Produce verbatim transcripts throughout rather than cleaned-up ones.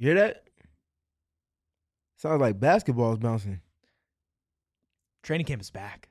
You hear that? Sounds like basketball's bouncing. Training camp is back.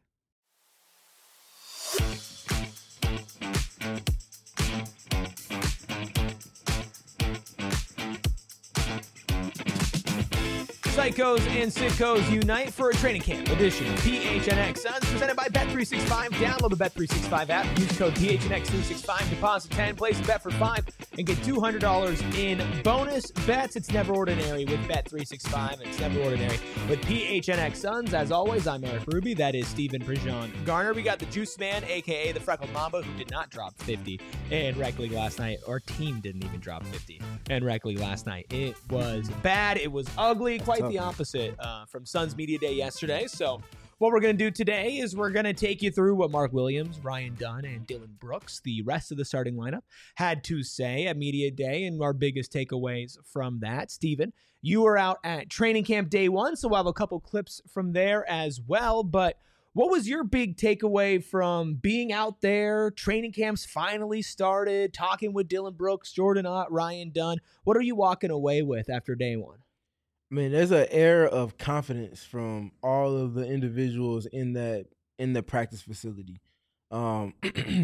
Psychos and sickos unite for a training camp edition of P H N X Suns presented by Bet three sixty-five. Download the Bet three sixty-five app. Use code P H N X three sixty-five. Deposit ten. Place a bet for five and get two hundred dollars in bonus bets. It's never ordinary with Bet three sixty-five. It's never ordinary with P H N X Suns. As always, I'm Eric Ruby. That is Stephen Prejean Garner. We got the Juice Man, a k a the Freckled Mamba, who did not drop fifty in Rec League last night. Our team didn't even drop fifty in Rec League last night. It was bad. It was ugly. Quite the opposite uh, from Suns Media Day yesterday. So what we're going to do today is we're going to take you through what Mark Williams, Ryan Dunn, and Dylan Brooks, the rest of the starting lineup, had to say at Media Day and our biggest takeaways from that. Steven, you were out at training camp day one, so we'll have a couple clips from there as well. But what was your big takeaway from being out there? Training camps finally started, talking with Dylan Brooks, Jordan Ott, Ryan Dunn. What are you walking away with after day one? I mean, there's an air of confidence from all of the individuals in that in the practice facility. Um,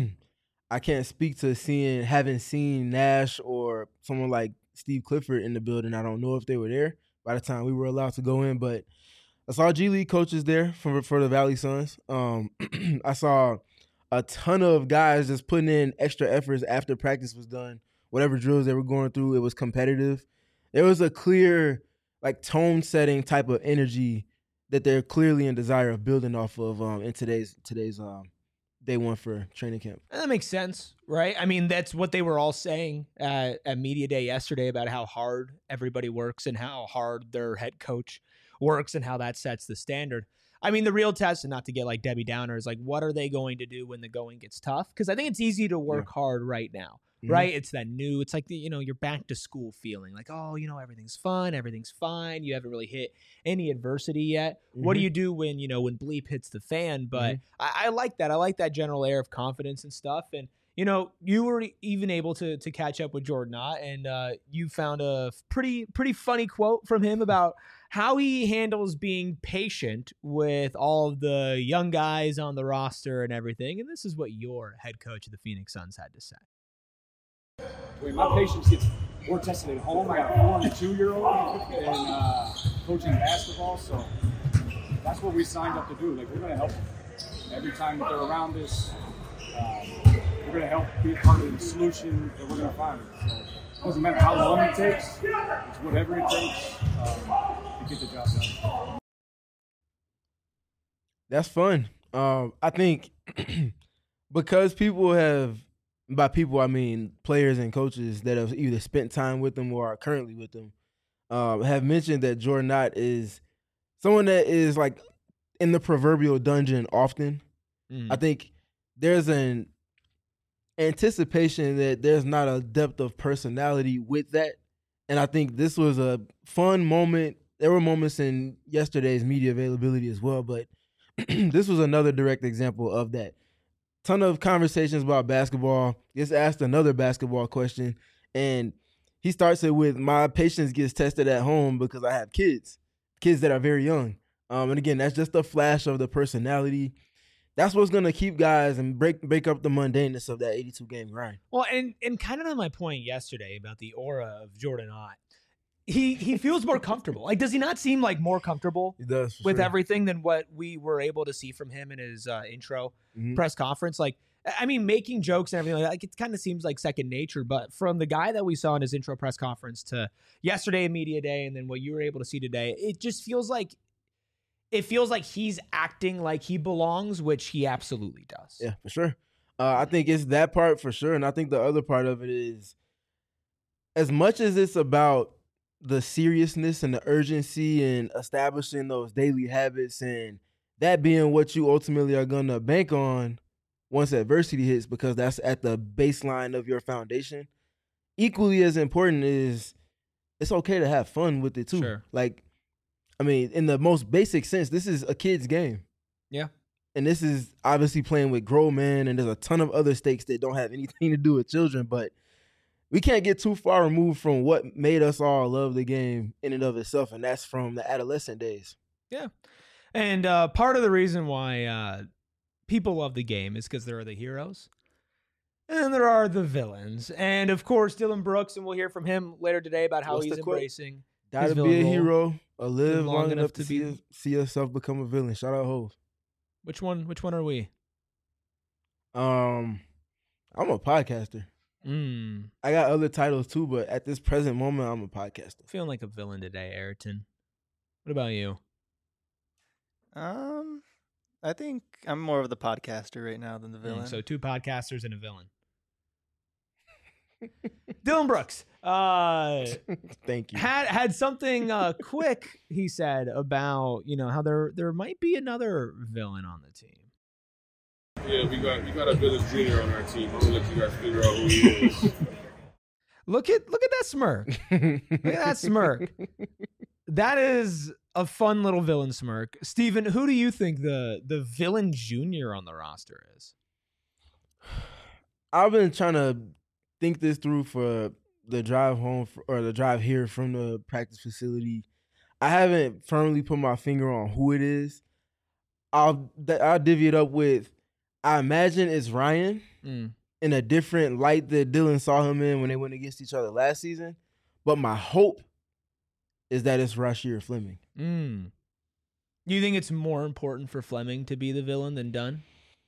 I can't speak to seeing, having seen Nash or someone like Steve Clifford in the building. I don't know if they were there by the time we were allowed to go in, but I saw G League coaches there for for the Valley Suns. Um, I saw a ton of guys just putting in extra efforts after practice was done. Whatever drills they were going through, it was competitive. There was a clear, like, tone-setting type of energy that they're clearly in desire of building off of um, in today's today's um, day one for training camp. And that makes sense, right? I mean, that's what they were all saying at, at Media Day yesterday about how hard everybody works and how hard their head coach works and how that sets the standard. I mean, the real test, and not to get like Debbie Downer, is like, what are they going to do when the going gets tough? Because I think it's easy to work yeah. hard right now. Mm-hmm. Right? It's that new, it's like, the, you know, you're back to school feeling like, oh, you know, everything's fun. Everything's fine. You haven't really hit any adversity yet. Mm-hmm. What do you do when, you know, when bleep hits the fan? But mm-hmm. I, I like that. I like that general air of confidence and stuff. And, you know, you were even able to to catch up with Jordan Ott, and uh, you found a pretty, pretty funny quote from him about how he handles being patient with all of the young guys on the roster and everything. And this is what your head coach of the Phoenix Suns had to say. I mean, my patience gets more tested at home. I got a four and a two-year-old and uh, coaching basketball, so that's what we signed up to do. Like, we're going to help them. Every time that they're around us, um, we're going to help be a part of the solution that we're going to find. So it doesn't matter how long it takes. It's whatever it takes um, to get the job done. That's fun. Um, I think because people have, by people, I mean players and coaches that have either spent time with them or are currently with them, uh, have mentioned that Jordan Ott is someone that is like in the proverbial dungeon often. Mm. I think there's an anticipation that there's not a depth of personality with that. And I think this was a fun moment. There were moments in yesterday's media availability as well, but this was another direct example of that. Ton of conversations about basketball. Gets asked another basketball question, and he starts it with, my patience gets tested at home because I have kids, kids that are very young. Um, and again, that's just a flash of the personality. That's what's going to keep guys and break break up the mundaneness of that eighty-two game grind. Well, and, and kind of on my point yesterday about the aura of Jordan Ott, he he feels more comfortable. Like, does he not seem like more comfortable he does, with sure. everything than what we were able to see from him in his uh, intro mm-hmm. press conference? Like, I mean, making jokes and everything like that, like, it kind of seems like second nature. But from the guy that we saw in his intro press conference to yesterday at Media Day and then what you were able to see today, it just feels like it feels like he's acting like he belongs, which he absolutely does. Yeah, for sure. Uh, I think it's that part for sure. And I think the other part of it is, as much as it's about the seriousness and the urgency and establishing those daily habits and that being what you ultimately are going to bank on once adversity hits, because that's at the baseline of your foundation, equally as important is it's okay to have fun with it too. Sure. Like, I mean, in the most basic sense, this is a kid's game. Yeah. And this is obviously playing with grown men, and there's a ton of other stakes that don't have anything to do with children, but we can't get too far removed from what made us all love the game in and of itself, and that's from the adolescent days. Yeah. And uh, part of the reason why uh, people love the game is because there are the heroes and there are the villains. And, of course, Dillon Brooks, and we'll hear from him later today about how What's he's the quote? embracing Gotta his be villain a role. hero or live long long, enough enough to to be- see, see yourself become a villain. Shout out Hov. Which one? Which one are we? Um, I'm a podcaster. Mm, I got other titles too, but at this present moment, I'm a podcaster. feeling like a villain today, Ayrton. What about you? Um, I think I'm more of the podcaster right now than the Mm, villain. so two podcasters and a villain. Dillon Brooks uh, Thank you. had had something uh, quick he said about you know how there there might be another villain on the team. Yeah, we got we got a villain junior on our team. I'm gonna let you guys figure out who he is. Look at look at that smirk. Look at that smirk. That is a fun little villain smirk. Steven, who do you think the the villain junior on the roster is? I've been trying to think this through for the drive home f or the drive here from the practice facility. I haven't firmly put my finger on who it is. I'll th- I'll divvy it up with. I imagine it's Ryan Mm. in a different light that Dillon saw him in when they went against each other last season. But my hope is that it's Rasheer Fleming. Mm. You think it's more important for Fleming to be the villain than Dunn?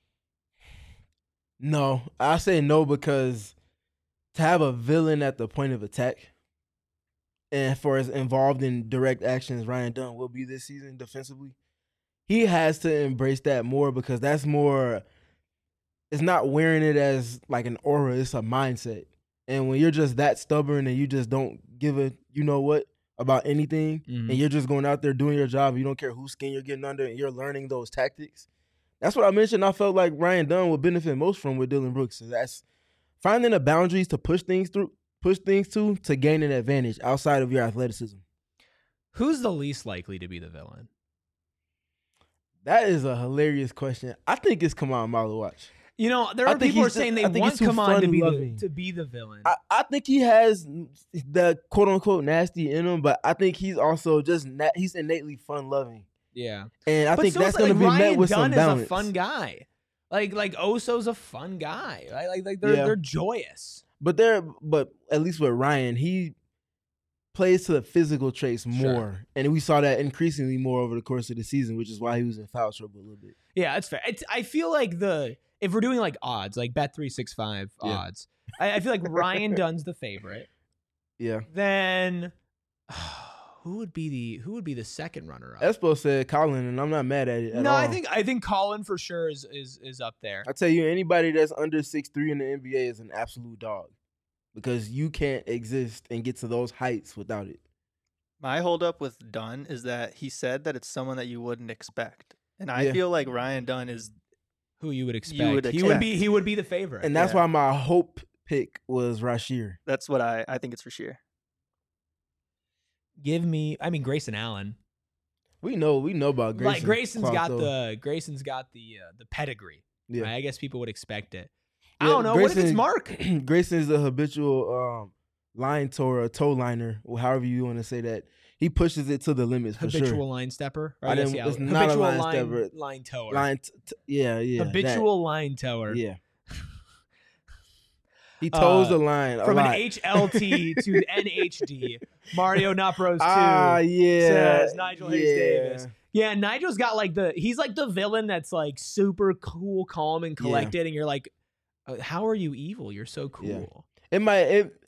No, I say no because to have a villain at the point of attack and for as involved in direct actions Ryan Dunn will be this season defensively, he has to embrace that more because that's more, it's not wearing it as like an aura, it's a mindset. And when you're just that stubborn and you just don't give a, you know what, about anything, Mhm. and you're just going out there doing your job, you don't care whose skin you're getting under, and you're learning those tactics. That's what I mentioned. I felt like Ryan Dunn would benefit most from with Dillon Brooks. So that's finding the boundaries to push things through, push things to, to gain an advantage outside of your athleticism. Who's the least likely to be the villain? That is a hilarious question. I think it's Kamal Malawatch. You know, there I are think people who are he's saying just- they I think want he's too Kaman to be the, fun-loving. to be the villain. I, I think he has the quote unquote nasty in him, but I think he's also just na- he's innately fun loving, yeah. and I But think so that's is, going to like, be Ryan met with Dunn some is balance. a fun guy. Like like Oso's a fun guy. Right? Like like they're Yeah. they're joyous. But there, but at least with Ryan, he plays to the physical traits more, Sure. and we saw that increasingly more over the course of the season, which is why he was in foul trouble a little bit. Yeah, it's fair. It's, I feel like the if we're doing like odds, like Bet three sixty-five Yeah. odds, I, I feel like Ryan Dunn's the favorite. Yeah, Then who would be the who would be the second runner up? Espo said Colin, and I'm not mad at it at No, all. I think I think Colin for sure is is is up there. I tell you, anybody that's under six three in the N B A is an absolute dog because you can't exist and get to those heights without it. My holdup with Dunn is that he said that it's someone that you wouldn't expect, and I Yeah. feel like Ryan Dunn is. Who you would expect? would He would expect. be he would be the favorite. And that's Yeah. why my hope pick was Rasheer. That's what I. I think it's for sure. Give me, I mean Grayson Allen. We know, we know about Grayson. Like Grayson's got Clark, though. the Grayson's got the uh, the pedigree. Yeah. Right? I guess people would expect it. I Yeah, don't know. what if it's Grayson- Mark? Grayson is a habitual um, line tower, a toe liner, or however you want to say that. He pushes it to the limits for Habitual sure. line stepper. Or I I guess, didn't- yeah, it's not a habitual line line, stepper. line tower. Line, t- t- yeah, yeah. that. habitual line tower. Yeah. He toes Uh, the line a From lot. an H L T to N H D. Mario Not Bros two. Ah, yeah. says Nigel Hayes yeah. Davis. Yeah, Nigel's got like the he's like the villain that's like super cool, calm, and Yeah. collected, and you're like, uh, how are you evil? You're so cool. Yeah. It might it,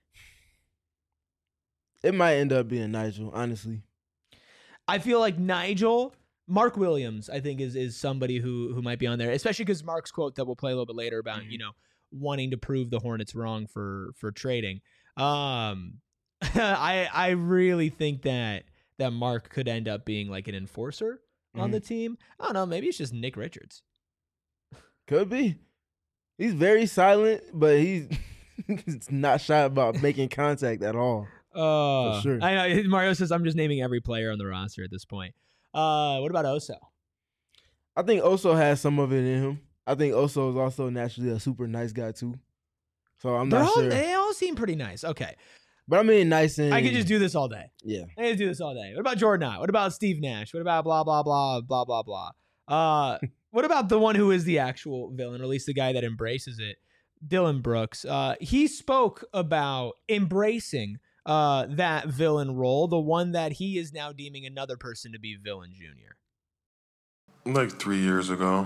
it might end up being Nigel, honestly. I feel like Nigel, Mark Williams, I think is is somebody who who might be on there, especially because Mark's quote that we'll play a little bit later about Mhm. you know wanting to prove the Hornets wrong for for trading. Um, I I really think that that Mark could end up being like an enforcer on Mhm. the team. I don't know. Maybe it's just Nick Richards. Could be. He's very silent, but he's he's not shy about making contact at all. Uh, sure. I know. Mario says I'm just naming every player on the roster at this point. Uh, what about Oso? I think Oso has some of it in him. I think Oso is also naturally a super nice guy too. So I'm They're not all, sure. They all seem pretty nice. Okay. But I mean, nice and I could just do this all day. yeah. I could do this all day. What about Jordan Ott? What about Steve Nash? What about blah, blah, blah, blah, blah, blah? Uh, what about the one who is the actual villain, or at least the guy that embraces it? Dylan Brooks. Uh, he spoke about embracing uh, that villain role, the one that he is now deeming another person to be villain junior. Like three years ago,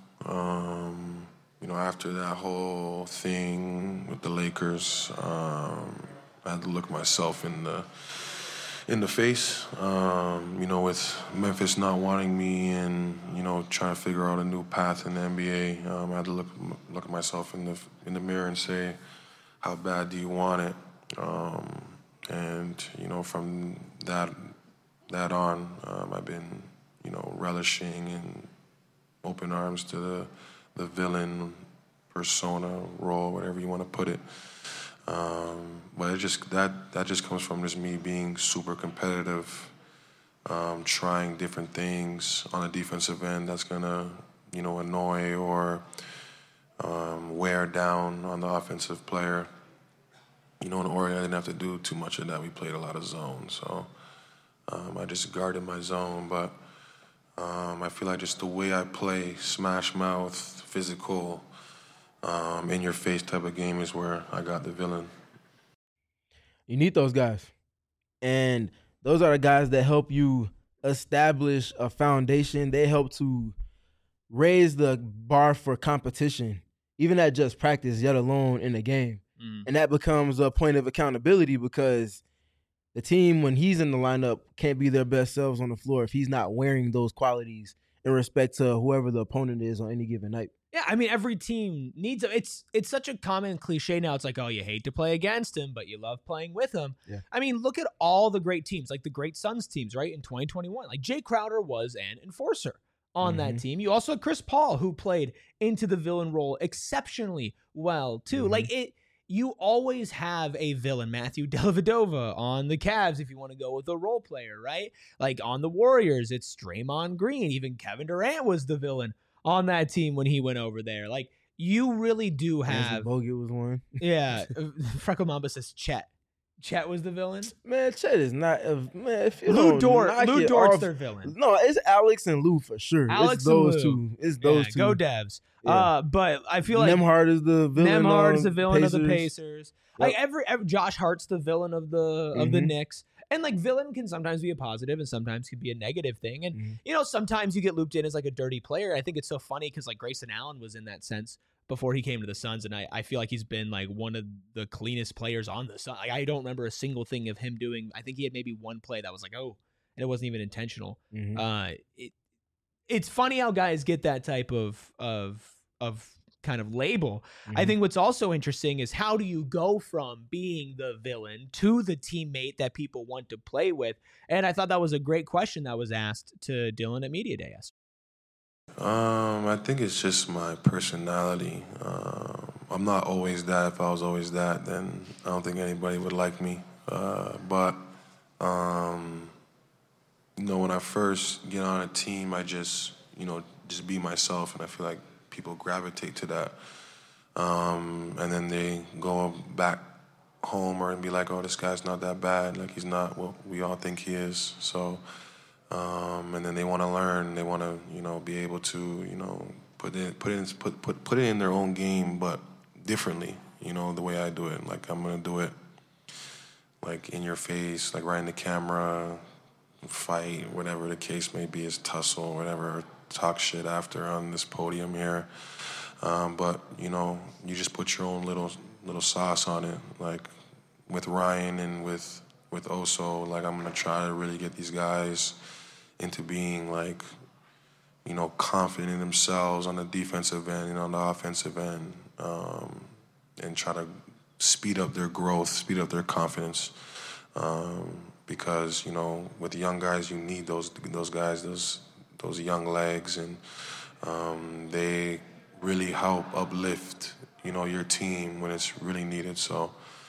um, you know, after that whole thing with the Lakers, um, I had to look myself in the in the face. Um, you know, with Memphis not wanting me and you know trying to figure out a new path in the N B A, um, I had to look look at myself in the in the mirror and say, how bad do you want it? Um, and you know, from that that on, um, I've been you know relishing in open arms to the the villain persona role, whatever you want to put it. Um, but it just that that just comes from just me being super competitive, um, trying different things on a defensive end that's gonna you know annoy or um, wear down on the offensive player. You know, in Oregon, I didn't have to do too much of that. We played a lot of zone, so um, I just guarded my zone. But um, I feel like just the way I play, smash mouth, physical. Um, in your face type of game is where I got the villain. You need those guys. And those are the guys that help you establish a foundation. They help to raise the bar for competition, even at just practice, yet alone in the game. Mm. And that becomes a point of accountability because the team, when he's in the lineup, can't be their best selves on the floor if he's not wearing those qualities in respect to whoever the opponent is on any given night. Yeah, I mean, every team needs it. It's it's such a common cliche now. It's like, oh, you hate to play against him, but you love playing with him. Yeah. I mean, look at all the great teams, like the great Suns teams, right, in twenty twenty-one. Like, Jay Crowder was an enforcer on mm-hmm. that team. You also had Chris Paul, who played into the villain role exceptionally well, too. Mm-hmm. Like, it, you always have a villain. Matthew Dellavedova on the Cavs, if you want to go with a role player, right? Like, on the Warriors, it's Draymond Green. Even Kevin Durant was the villain on that team when he went over there. Like, you really do have... Bogut was one. Yeah. Freckle Mamba says Chet. Chet was the villain? Man, Chet is not... A, man, if you Lou Dort. Lou Dort's off, their villain. No, it's Alex and Lou for sure. Alex it's those and Lou. two. It's those yeah, two. Go Devs. Yeah. Uh, but I feel like... Nembhard is the villain Nembhard is the villain Pacers. of the Pacers. Yep. Like, every, every... Josh Hart's the villain of the of mm-hmm. the Knicks. And, like, villain can sometimes be a positive and sometimes can be a negative thing. And, mm-hmm. you know, sometimes you get looped in as, like, a dirty player. I think it's so funny because, like, Grayson Allen was in that sense before he came to the Suns. And I, I feel like he's been, like, one of the cleanest players on the Suns. Like, I don't remember a single thing of him doing. I think he had maybe one play that was like, oh, and it wasn't even intentional. Mm-hmm. Uh, it, it's funny how guys get that type of of of kind of label. Mm-hmm. I think what's also interesting is how do you go from being the villain to the teammate that people want to play with? And I thought that was a great question that was asked to Dylan at Media Day yesterday. Um, I think it's just my personality. Um, I'm not always that. If I was always that, then I don't think anybody would like me. Uh, but, um, you know, when I first get on a team, I just, you know, just be myself, and I feel like people gravitate to that. Um, and then they go back home or and be like, oh, this guy's not that bad. Like, he's not what we all think he is. So, um, and then they want to learn. They want to, you know, be able to, you know, put it, put it, in, put, put, put it in their own game, but differently, you know, the way I do it. Like, I'm going to do it, like, in your face, like, right in the camera, fight, whatever the case may be, is tussle, whatever, talk shit after on this podium here. Um, but, you know, you just put your own little little sauce on it. Like, with Ryan and with, with Oso, like, I'm going to try to really get these guys into being, like, you know, confident in themselves on the defensive end and on the offensive end, um, and try to speed up their growth, speed up their confidence. Um, because, you know, with the young guys, you need those those guys, those those young legs, and um, they really help uplift, you know, your team when it's really needed. So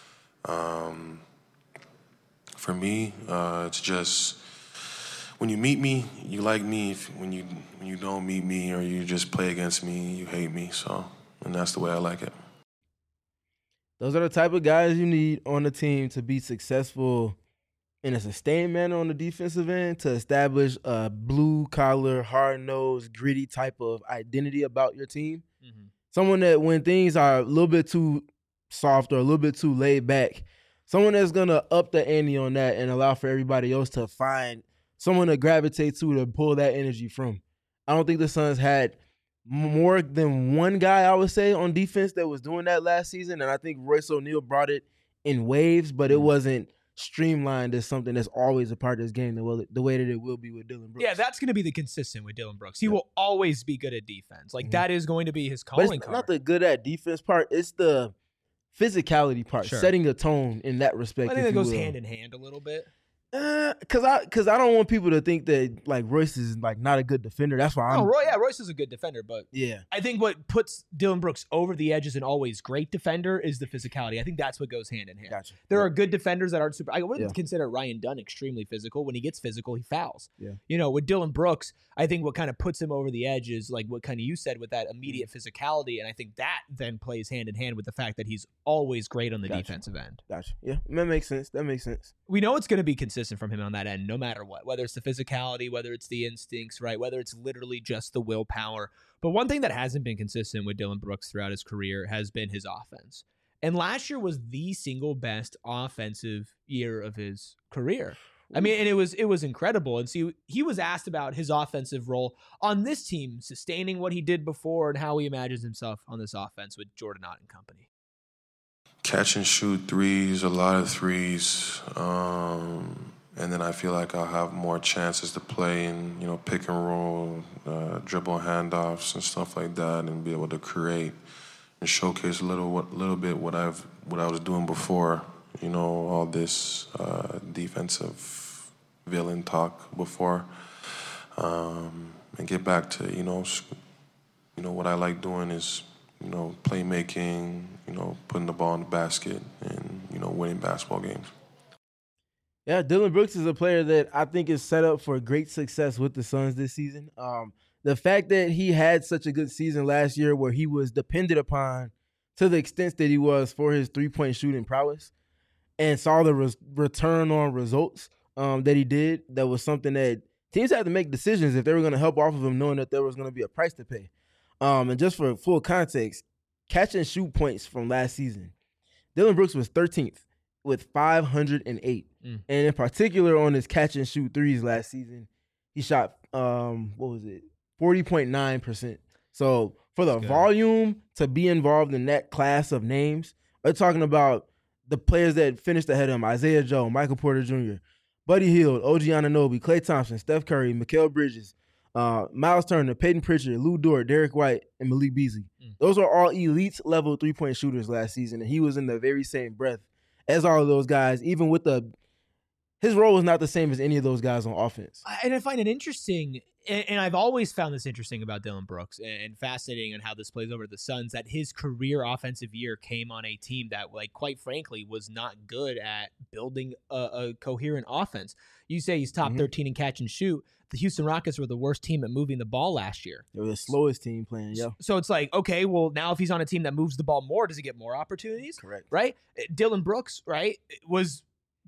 um, for me, uh, it's just when you meet me, you like me. If, when you when you don't meet me or you just play against me, you hate me. So, and that's the way I like it. Those are the type of guys you need on the team to be successful in a sustained manner on the defensive end, to establish a blue-collar, hard-nosed, gritty type of identity about your team. Mm-hmm. Someone that when things are a little bit too soft or a little bit too laid back, someone that's going to up the ante on that and allow for everybody else to find someone to gravitate to to pull that energy from. I don't think the Suns had more than one guy, I would say, on defense that was doing that last season, and I think Royce O'Neal brought it in waves, but it wasn't streamlined as something that's always a part of this game the way, the way that it will be with Dillon Brooks. Yeah, that's going to be the consistent with Dillon Brooks. He yeah. will always be good at defense. Like, mm-hmm. that is going to be his calling but it's card. Not the good at defense part. It's the physicality part, sure. setting the tone in that respect. I think that goes will. hand in hand a little bit. Uh, cause I, cause I don't want people to think that like Royce is like not a good defender. That's why I'm. Oh, Roy, yeah, Royce is a good defender, but yeah, I think what puts Dillon Brooks over the edge as an always great defender is the physicality. I think that's what goes hand in hand. Gotcha. There yeah. are good defenders that aren't super. I wouldn't yeah. consider Ryan Dunn extremely physical. When he gets physical, he fouls. Yeah. You know, with Dillon Brooks, I think what kind of puts him over the edge is like what kind of you said with that immediate mm. physicality, and I think that then plays hand in hand with the fact that he's always great on the gotcha. defensive end. Gotcha. Yeah, that makes sense. That makes sense. We know it's going to be consistent from him on that end, no matter what, whether it's the physicality, whether it's the instincts, right? Whether it's literally just the willpower. But one thing that hasn't been consistent with Dillon Brooks throughout his career has been his offense. And last year was the single best offensive year of his career. I mean, and it was it was incredible. And see, he was asked about his offensive role on this team, sustaining what he did before and how he imagines himself on this offense with Jordan Ott and company. Catch and shoot threes, a lot of threes. Um, and then I feel like I'll have more chances to play in, you know, pick and roll, uh, dribble handoffs and stuff like that, and be able to create and showcase a little, what, little bit what I've, what I was doing before. You know, all this uh, defensive villain talk before, um, and get back to you know, you know what I like doing is you know playmaking, you know putting the ball in the basket, and you know winning basketball games. Yeah, Dillon Brooks is a player that I think is set up for great success with the Suns this season. Um, the fact that he had such a good season last year, where he was depended upon to the extent that he was for his three-point shooting prowess, and saw the res- return on results um, that he did, that was something that teams had to make decisions if they were going to help off of him, knowing that there was going to be a price to pay. Um, and just for full context, catch and shoot points from last season, Dillon Brooks was thirteenth with five hundred eight. Mm. And in particular on his catch and shoot threes last season, he shot, um, what was it, forty point nine percent. So for the volume to be involved in that class of names, we're talking about the players that finished ahead of him: Isaiah Joe, Michael Porter Junior, Buddy Hield, O G Anunoby, Klay Thompson, Steph Curry, Mikal Bridges, uh, Miles Turner, Peyton Pritchard, Lou Dort, Derek White, and Malik Beasley. Mm. Those are all elite level three-point shooters last season, and he was in the very same breath as all of those guys, even with the – his role was not the same as any of those guys on offense. And I find it interesting – and I've always found this interesting about Dillon Brooks and fascinating on how this plays over the Suns, that his career offensive year came on a team that, like, quite frankly, was not good at building a, a coherent offense. You say he's top mm-hmm. thirteen in catch and shoot. The Houston Rockets were the worst team at moving the ball last year. They were the slowest team playing, yeah. So it's like, okay, well, now if he's on a team that moves the ball more, does he get more opportunities? Correct. Right? Dillon Brooks, right, was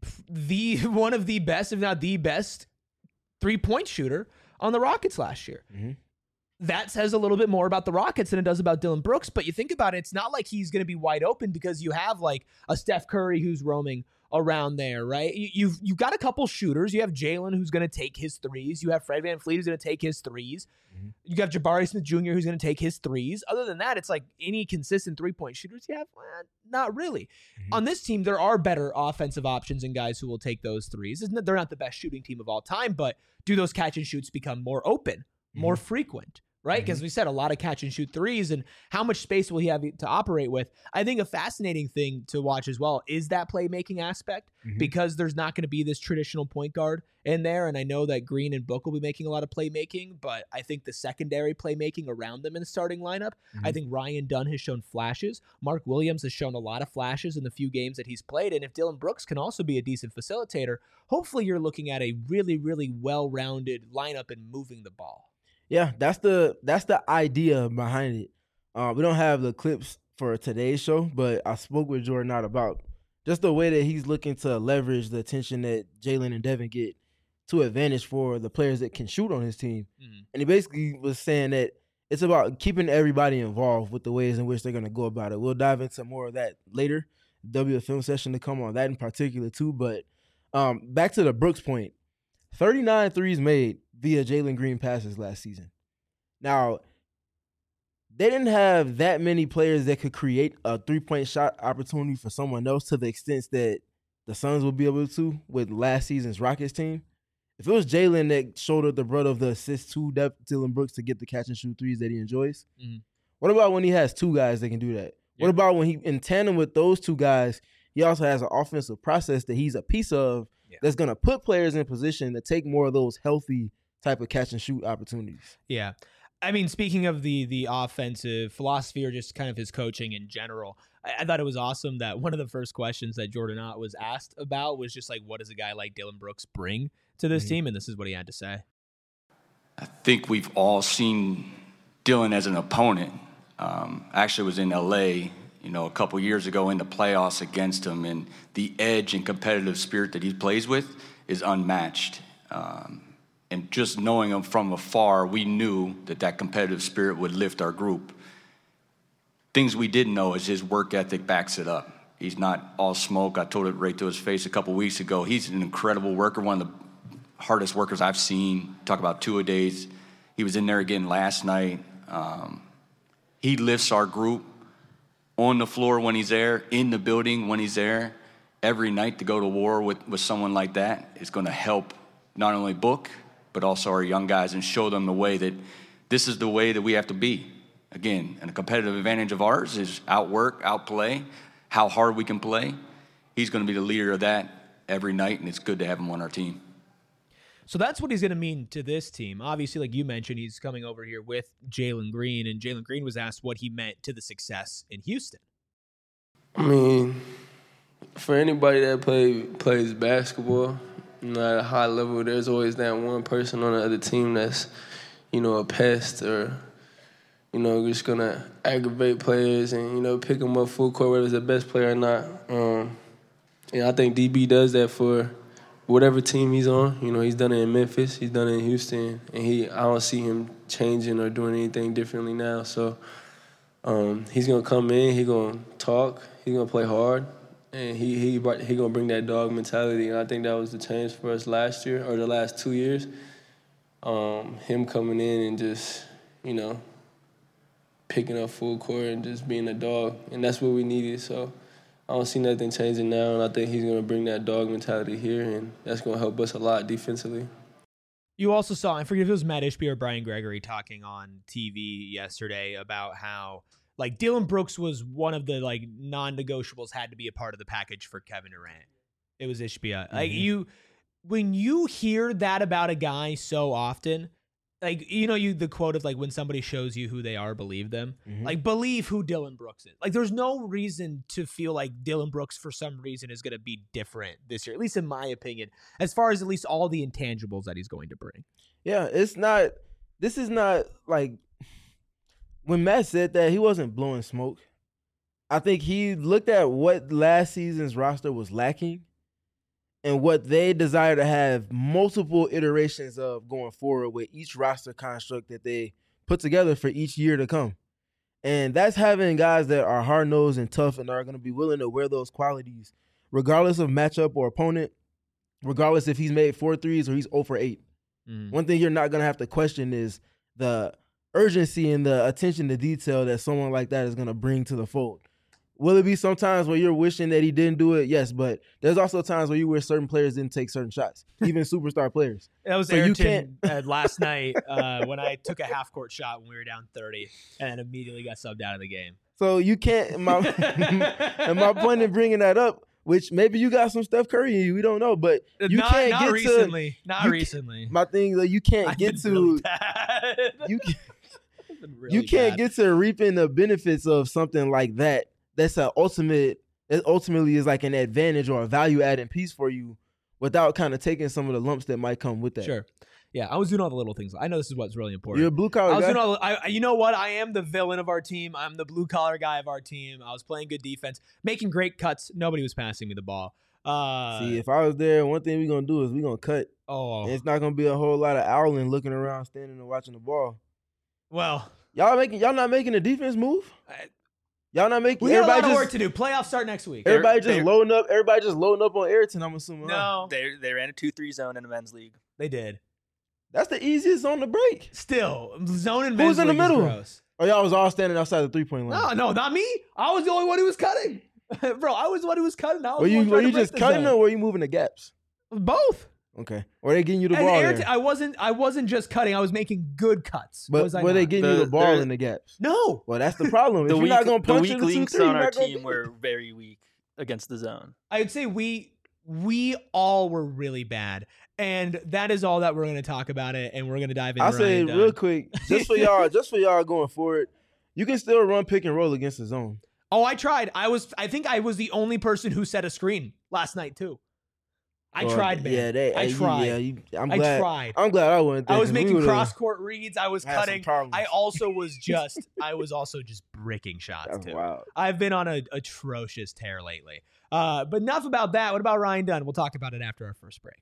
the one of the best, if not the best, three-point shooter on the Rockets last year. Mm-hmm. That says a little bit more about the Rockets than it does about Dillon Brooks, but you think about it, it's not like he's going to be wide open because you have like a Steph Curry who's roaming around there, right? You, you've you've got a couple shooters. You have Jalen who's going to take his threes. You have Fred VanVleet who's going to take his threes. Mm-hmm. You got Jabari Smith Junior who's going to take his threes. Other than that, it's like any consistent three-point shooters you have? Well, not really. Mm-hmm. On this team, there are better offensive options and guys who will take those threes. They're not the best shooting team of all time, but do those catch and shoots become more open, more mm-hmm. frequent? Right? Because mm-hmm. we said a lot of catch and shoot threes, and how much space will he have to operate with? I think a fascinating thing to watch as well is that playmaking aspect, mm-hmm. because there's not going to be this traditional point guard in there. And I know that Green and Book will be making a lot of playmaking, but I think the secondary playmaking around them in the starting lineup, mm-hmm. I think Ryan Dunn has shown flashes. Mark Williams has shown a lot of flashes in the few games that he's played. And if Dillon Brooks can also be a decent facilitator, hopefully you're looking at a really, really well-rounded lineup and moving the ball. Yeah, that's the that's the idea behind it. Uh, we don't have the clips for today's show, but I spoke with Jordan Knott about just the way that he's looking to leverage the attention that Jalen and Devin get to advantage for the players that can shoot on his team. Mm-hmm. And he basically was saying that it's about keeping everybody involved with the ways in which they're going to go about it. We'll dive into more of that later. W film session to come on that in particular too. But um, back to the Brooks point, thirty-nine threes made via Jalen Green passes last season. Now, they didn't have that many players that could create a three-point shot opportunity for someone else to the extent that the Suns will be able to with last season's Rockets team. If it was Jalen that shouldered the brunt of the assist to Dillon Brooks to get the catch-and-shoot threes that he enjoys, mm-hmm. what about when he has two guys that can do that? Yeah. What about when he, in tandem with those two guys, he also has an offensive process that he's a piece of yeah. that's going to put players in position to take more of those healthy type of catch-and-shoot opportunities? Yeah. I mean, speaking of the the offensive philosophy or just kind of his coaching in general, I, I thought it was awesome that one of the first questions that Jordan Knott was asked about was just like, what does a guy like Dillon Brooks bring to this mm-hmm. team? And this is what he had to say. I think we've all seen Dillon as an opponent. Um, I actually was in L A, you know, a couple years ago in the playoffs against him, and the edge and competitive spirit that he plays with is unmatched. Um, And just knowing him from afar, we knew that that competitive spirit would lift our group. Things we didn't know is his work ethic backs it up. He's not all smoke. I told it right to his face a couple weeks ago. He's an incredible worker, one of the hardest workers I've seen. Talk about two-a-days. He was in there again last night. Um, he lifts our group on the floor when he's there, in the building when he's there. Every night to go to war with, with someone like that is going to help not only Book, but also our young guys, and show them the way that this is the way that we have to be. Again, and a competitive advantage of ours is outwork, outplay, how hard we can play. He's going to be the leader of that every night, and it's good to have him on our team. So that's what he's going to mean to this team. Obviously, like you mentioned, he's coming over here with Jalen Green, and Jalen Green was asked what he meant to the success in Houston. I mean, for anybody that play, plays basketball, you know, at a high level, there's always that one person on the other team that's, you know, a pest or, you know, just going to aggravate players and, you know, pick them up full court, whether it's the best player or not. Um, and I think D B does that for whatever team he's on. You know, he's done it in Memphis, he's done it in Houston, and he I don't see him changing or doing anything differently now. So um, he's going to come in, he's going to talk, he's going to play hard. And he he he gonna bring that dog mentality, and I think that was the change for us last year or the last two years. Um, him coming in and just, you know, picking up full court and just being a dog, and that's what we needed. So I don't see nothing changing now, and I think he's gonna bring that dog mentality here, and that's gonna help us a lot defensively. You also saw, I forget if it was Matt Ishbia or Brian Gregory talking on T V yesterday about how, like, Dillon Brooks was one of the, like, non-negotiables, had to be a part of the package for Kevin Durant. It was Ishbia. Mm-hmm. Like, you, when you hear that about a guy so often, like, you know, you the quote of, like, when somebody shows you who they are, believe them. Mm-hmm. Like, believe who Dillon Brooks is. Like, there's no reason to feel like Dillon Brooks, for some reason, is going to be different this year, at least in my opinion, as far as at least all the intangibles that he's going to bring. Yeah, it's not, this is not, like, when Matt said that, he wasn't blowing smoke. I think he looked at what last season's roster was lacking and what they desire to have multiple iterations of going forward with each roster construct that they put together for each year to come. And that's having guys that are hard-nosed and tough and are going to be willing to wear those qualities regardless of matchup or opponent, regardless if he's made four threes or he's zero for eight. Mm. One thing you're not going to have to question is the urgency and the attention to detail that someone like that is going to bring to the fold. Will it be sometimes where you're wishing that he didn't do it? Yes, but there's also times where you wish certain players didn't take certain shots, even superstar players. That was so Ayrton uh, last night uh, when I took a half-court shot when we were down thirty and immediately got subbed out of the game. So you can't – my and my point in bringing that up, which maybe you got some Steph Curry in you, we don't know, but you not, can't not get recently. to – Not recently. My thing is, like, you can't I've get to really – you, can, really you can't bad. get to reaping the benefits of something like that. That's an ultimate, it ultimately is like an advantage or a value-adding piece for you without kind of taking some of the lumps that might come with that. Sure. Yeah, I was doing all the little things. I know this is what's really important. You're a blue collar I was guy. doing all. I, you know what? I am the villain of our team. I'm the blue collar guy of our team. I was playing good defense, making great cuts. Nobody was passing me the ball. Uh, See, if I was there, one thing we're gonna do is we're gonna cut. oh, And it's not gonna be a whole lot of owling looking around, standing and watching the ball. well, Y'all making y'all not making a defense move? I- Y'all not making we got a lot everybody of just work to do. Playoffs start next week. They're- everybody just they're- loading up. Everybody just loading up on Ayrton. I'm assuming. huh? No, They they ran a two three zone in the men's league. they did. That's the easiest on the break. Still, zone and Who's men's in the league is middle? gross. Oh, y'all was all standing outside the three point line. No, no, not me. I was the only one who was cutting. Bro, I was the one who was cutting. I was Were the you one were trying you to break just the cutting zone. or were you moving the gaps? Both. Okay. Or they getting you the And ball Ayrton, there? I wasn't. I wasn't just cutting. I was making good cuts. But was I were they not? getting you The- the ball there- in the gaps? No. Well, that's the problem. If The you're weak, not gonna the punch weak it to links three, on you're our not gonna team get- were very weak against the zone. I would say we we all were really bad, and that is all that we're going to talk about it. And we're going to dive into. I'll say Ryan Dunn. real quick, just for y'all, just for y'all going forward, you can still run pick and roll against the zone. Oh, I tried. I was. I think I was the only person who set a screen last night too. I Well, tried, man. Yeah, they. I you- tried. Yeah, you, I'm I glad. tried. I'm glad I wasn't there. I was 'cause we making would've cross court reads. I was had some cutting. problems. I also was just. I was also just bricking shots That's too. wild. I've been on an atrocious tear lately. Uh, but enough about that. What about Ryan Dunn? We'll talk about it after our first break.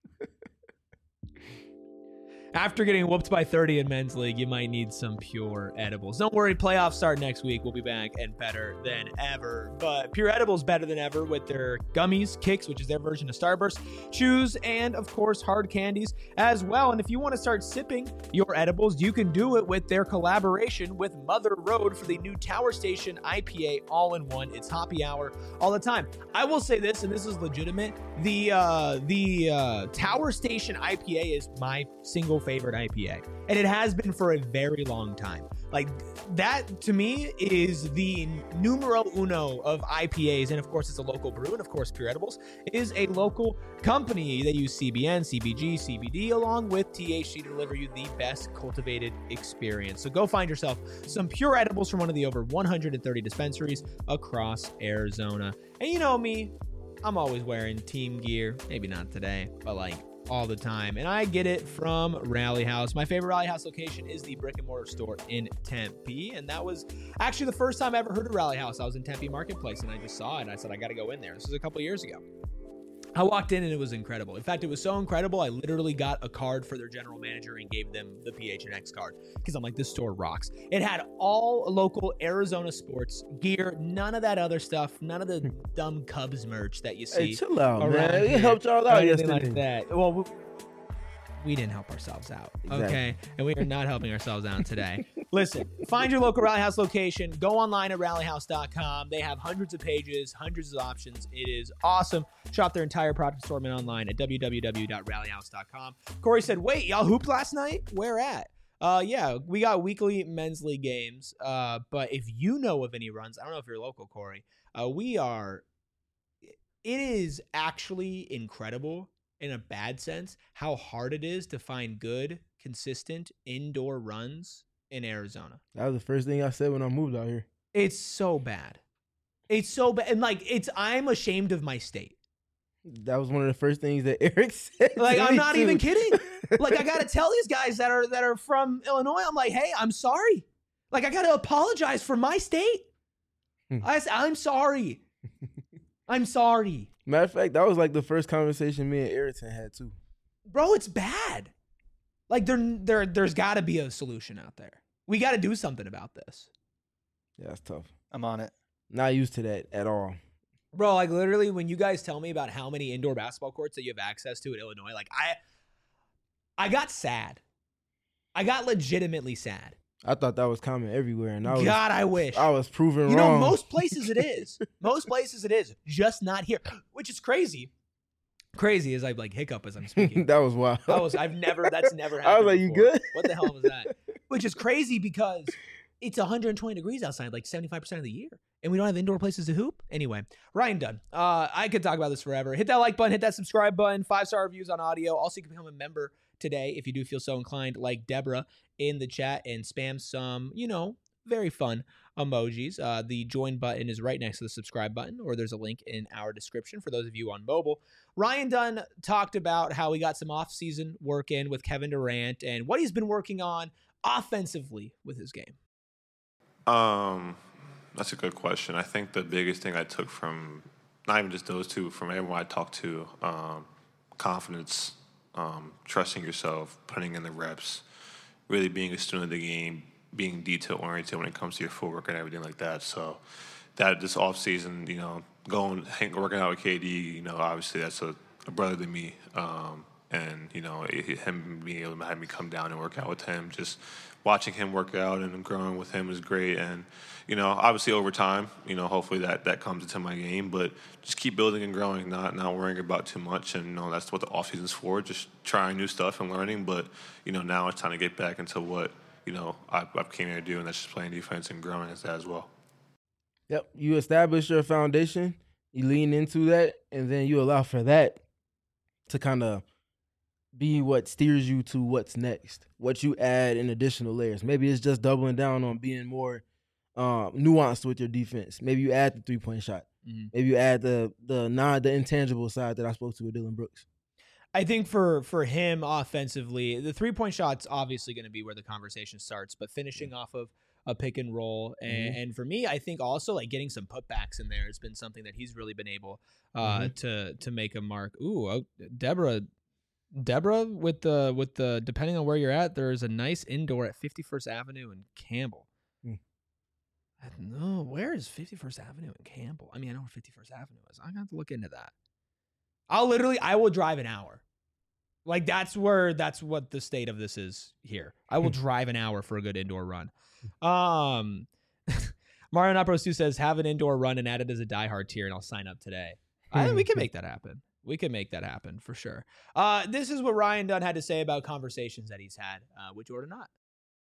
After getting whooped by thirty in men's league, you might need some pure edibles. Don't worry, playoffs start next week. We'll be back and better than ever. But Pure Edibles better than ever with their gummies, Kicks, which is their version of Starburst, chews, and of course hard candies as well. And if you want to start sipping your edibles, you can do it with their collaboration with Mother Road for the new Tower Station I P A all-in-one. It's happy hour all the time. I will say this, and this is legitimate. The uh, the uh, Tower Station I P A is my single favorite I P A, and it has been for a very long time. Like that to me is the numero uno of I P As, and of course it's a local brew, and of course Pure Edibles is a local company. They use C B N, C B G, C B D along with T H C to deliver you the best cultivated experience. So go find yourself some Pure Edibles from one of the over one hundred thirty dispensaries across Arizona. And you know me, I'm always wearing team gear. Maybe not today, but like all the time. And I get it from Rally House. My favorite Rally House location is the brick and mortar store in Tempe. And that was actually the first time I ever heard of Rally House. I was in Tempe Marketplace and I just saw it. And I said, I got to go in there. This was a couple years ago. I walked in and it was incredible. In fact, it was so incredible, I literally got a card for their general manager and gave them the P H N X card because I'm like, this store rocks. It had all local Arizona sports gear, none of that other stuff, none of the dumb Cubs merch that you see. Hey, chill out, around man. here It helped y'all or out anything yesterday. like that. Well, we, we didn't help ourselves out, Exactly. okay? And we are not helping ourselves out today. Listen, find your local Rally House location. Go online at rally house dot com. They have hundreds of pages, hundreds of options. It is awesome. Shop their entire product assortment online at w w w dot rally house dot com. Corey said, wait, y'all hooped last night? Where at? Uh, yeah, we got weekly men's league games. Uh, but if you know of any runs, I don't know if you're local, Corey. Uh, we are. It is actually incredible in a bad sense how hard it is to find good, consistent indoor runs in Arizona. That was the first thing I said when I moved out here. It's so bad. It's so bad. And like, it's, I'm ashamed of my state. That was one of the first things that Eric said. Like, to I'm me, not too. even kidding. Like, I got to tell these guys that are, that are from Illinois, I'm like, hey, I'm sorry. Like, I got to apologize for my state. I said, I'm sorry. I'm sorry. Matter of fact, that was like the first conversation me and Ayrton had too. Bro, it's bad. Like, there, there, there's got to be a solution out there. We got to do something about this. Yeah, that's tough. I'm on it. Not used to that at all. Bro, like literally when you guys tell me about how many indoor basketball courts that you have access to in Illinois, like I I got sad. I got legitimately sad. I thought that was common everywhere, and I was God, I wish. I was proven You wrong. know, most places it is. Most places it is. Just not here. Which is crazy. Crazy as I like hiccup as I'm speaking. that was wild. I was I've never that's never happened. I was like, you before. good? What the hell was that? Which is crazy because it's one hundred twenty degrees outside like seventy-five percent of the year. And we don't have indoor places to hoop. Anyway, Ryan Dunn. Uh, I could talk about this forever. Hit that like button, hit that subscribe button, five-star reviews on audio. Also, you can become a member today if you do feel so inclined, like Deborah in the chat, and spam some, you know, very fun emojis. Uh, the join button is right next to the subscribe button, or there's a link in our description for those of you on mobile. Ryan Dunn talked about how he got some off-season work in with Kevin Durant and what he's been working on offensively with his game. Um, that's a good question. I think the biggest thing I took from not even just those two, from everyone I talked to, um, confidence, um, trusting yourself, putting in the reps, really being a student of the game, being detail-oriented when it comes to your footwork and everything like that. So that this off-season, you know, going, hang, working out with K D, you know, obviously that's a, a brother to me. Um, and, you know, it, him being able to have me come down and work out with him, just watching him work out and growing with him is great. And, you know, obviously over time, you know, hopefully that, that comes into my game. But just keep building and growing, not not worrying about too much. And, you know, that's what the offseason's for, just trying new stuff and learning. But, you know, now it's time to get back into what, you know, I, I came here to do, and that's just playing defense and growing as that as well. Yep, you establish your foundation, you lean into that, and then you allow for that to kind of be what steers you to what's next, what you add in additional layers. Maybe it's just doubling down on being more um, nuanced with your defense. Maybe you add the three-point shot. Mm-hmm. Maybe you add the the non the intangible side that I spoke to with Dillon Brooks. I think for for him offensively, the three-point shot's obviously going to be where the conversation starts, but finishing yeah. off of a pick and roll. And, mm-hmm. and for me, I think also like getting some putbacks in there has been something that he's really been able uh, mm-hmm. to to make a mark. Ooh, oh, Deborah, Deborah with the with the depending on where you're at, there's a nice indoor at fifty-first Avenue in Campbell. Mm. I don't know, where is fifty-first Avenue in Campbell? I mean, I know where fifty-first Avenue is. I'm gonna have to look into that. I'll literally, I will drive an hour. Like that's where, that's what the state of this is here. I will drive an hour for a good indoor run. Um, Mario Napros two says, have an indoor run and add it as a diehard tier, and I'll sign up today. I think we can make that happen. We can make that happen for sure. Uh, this is what Ryan Dunn had to say about conversations that he's had uh, with Jordan Knott.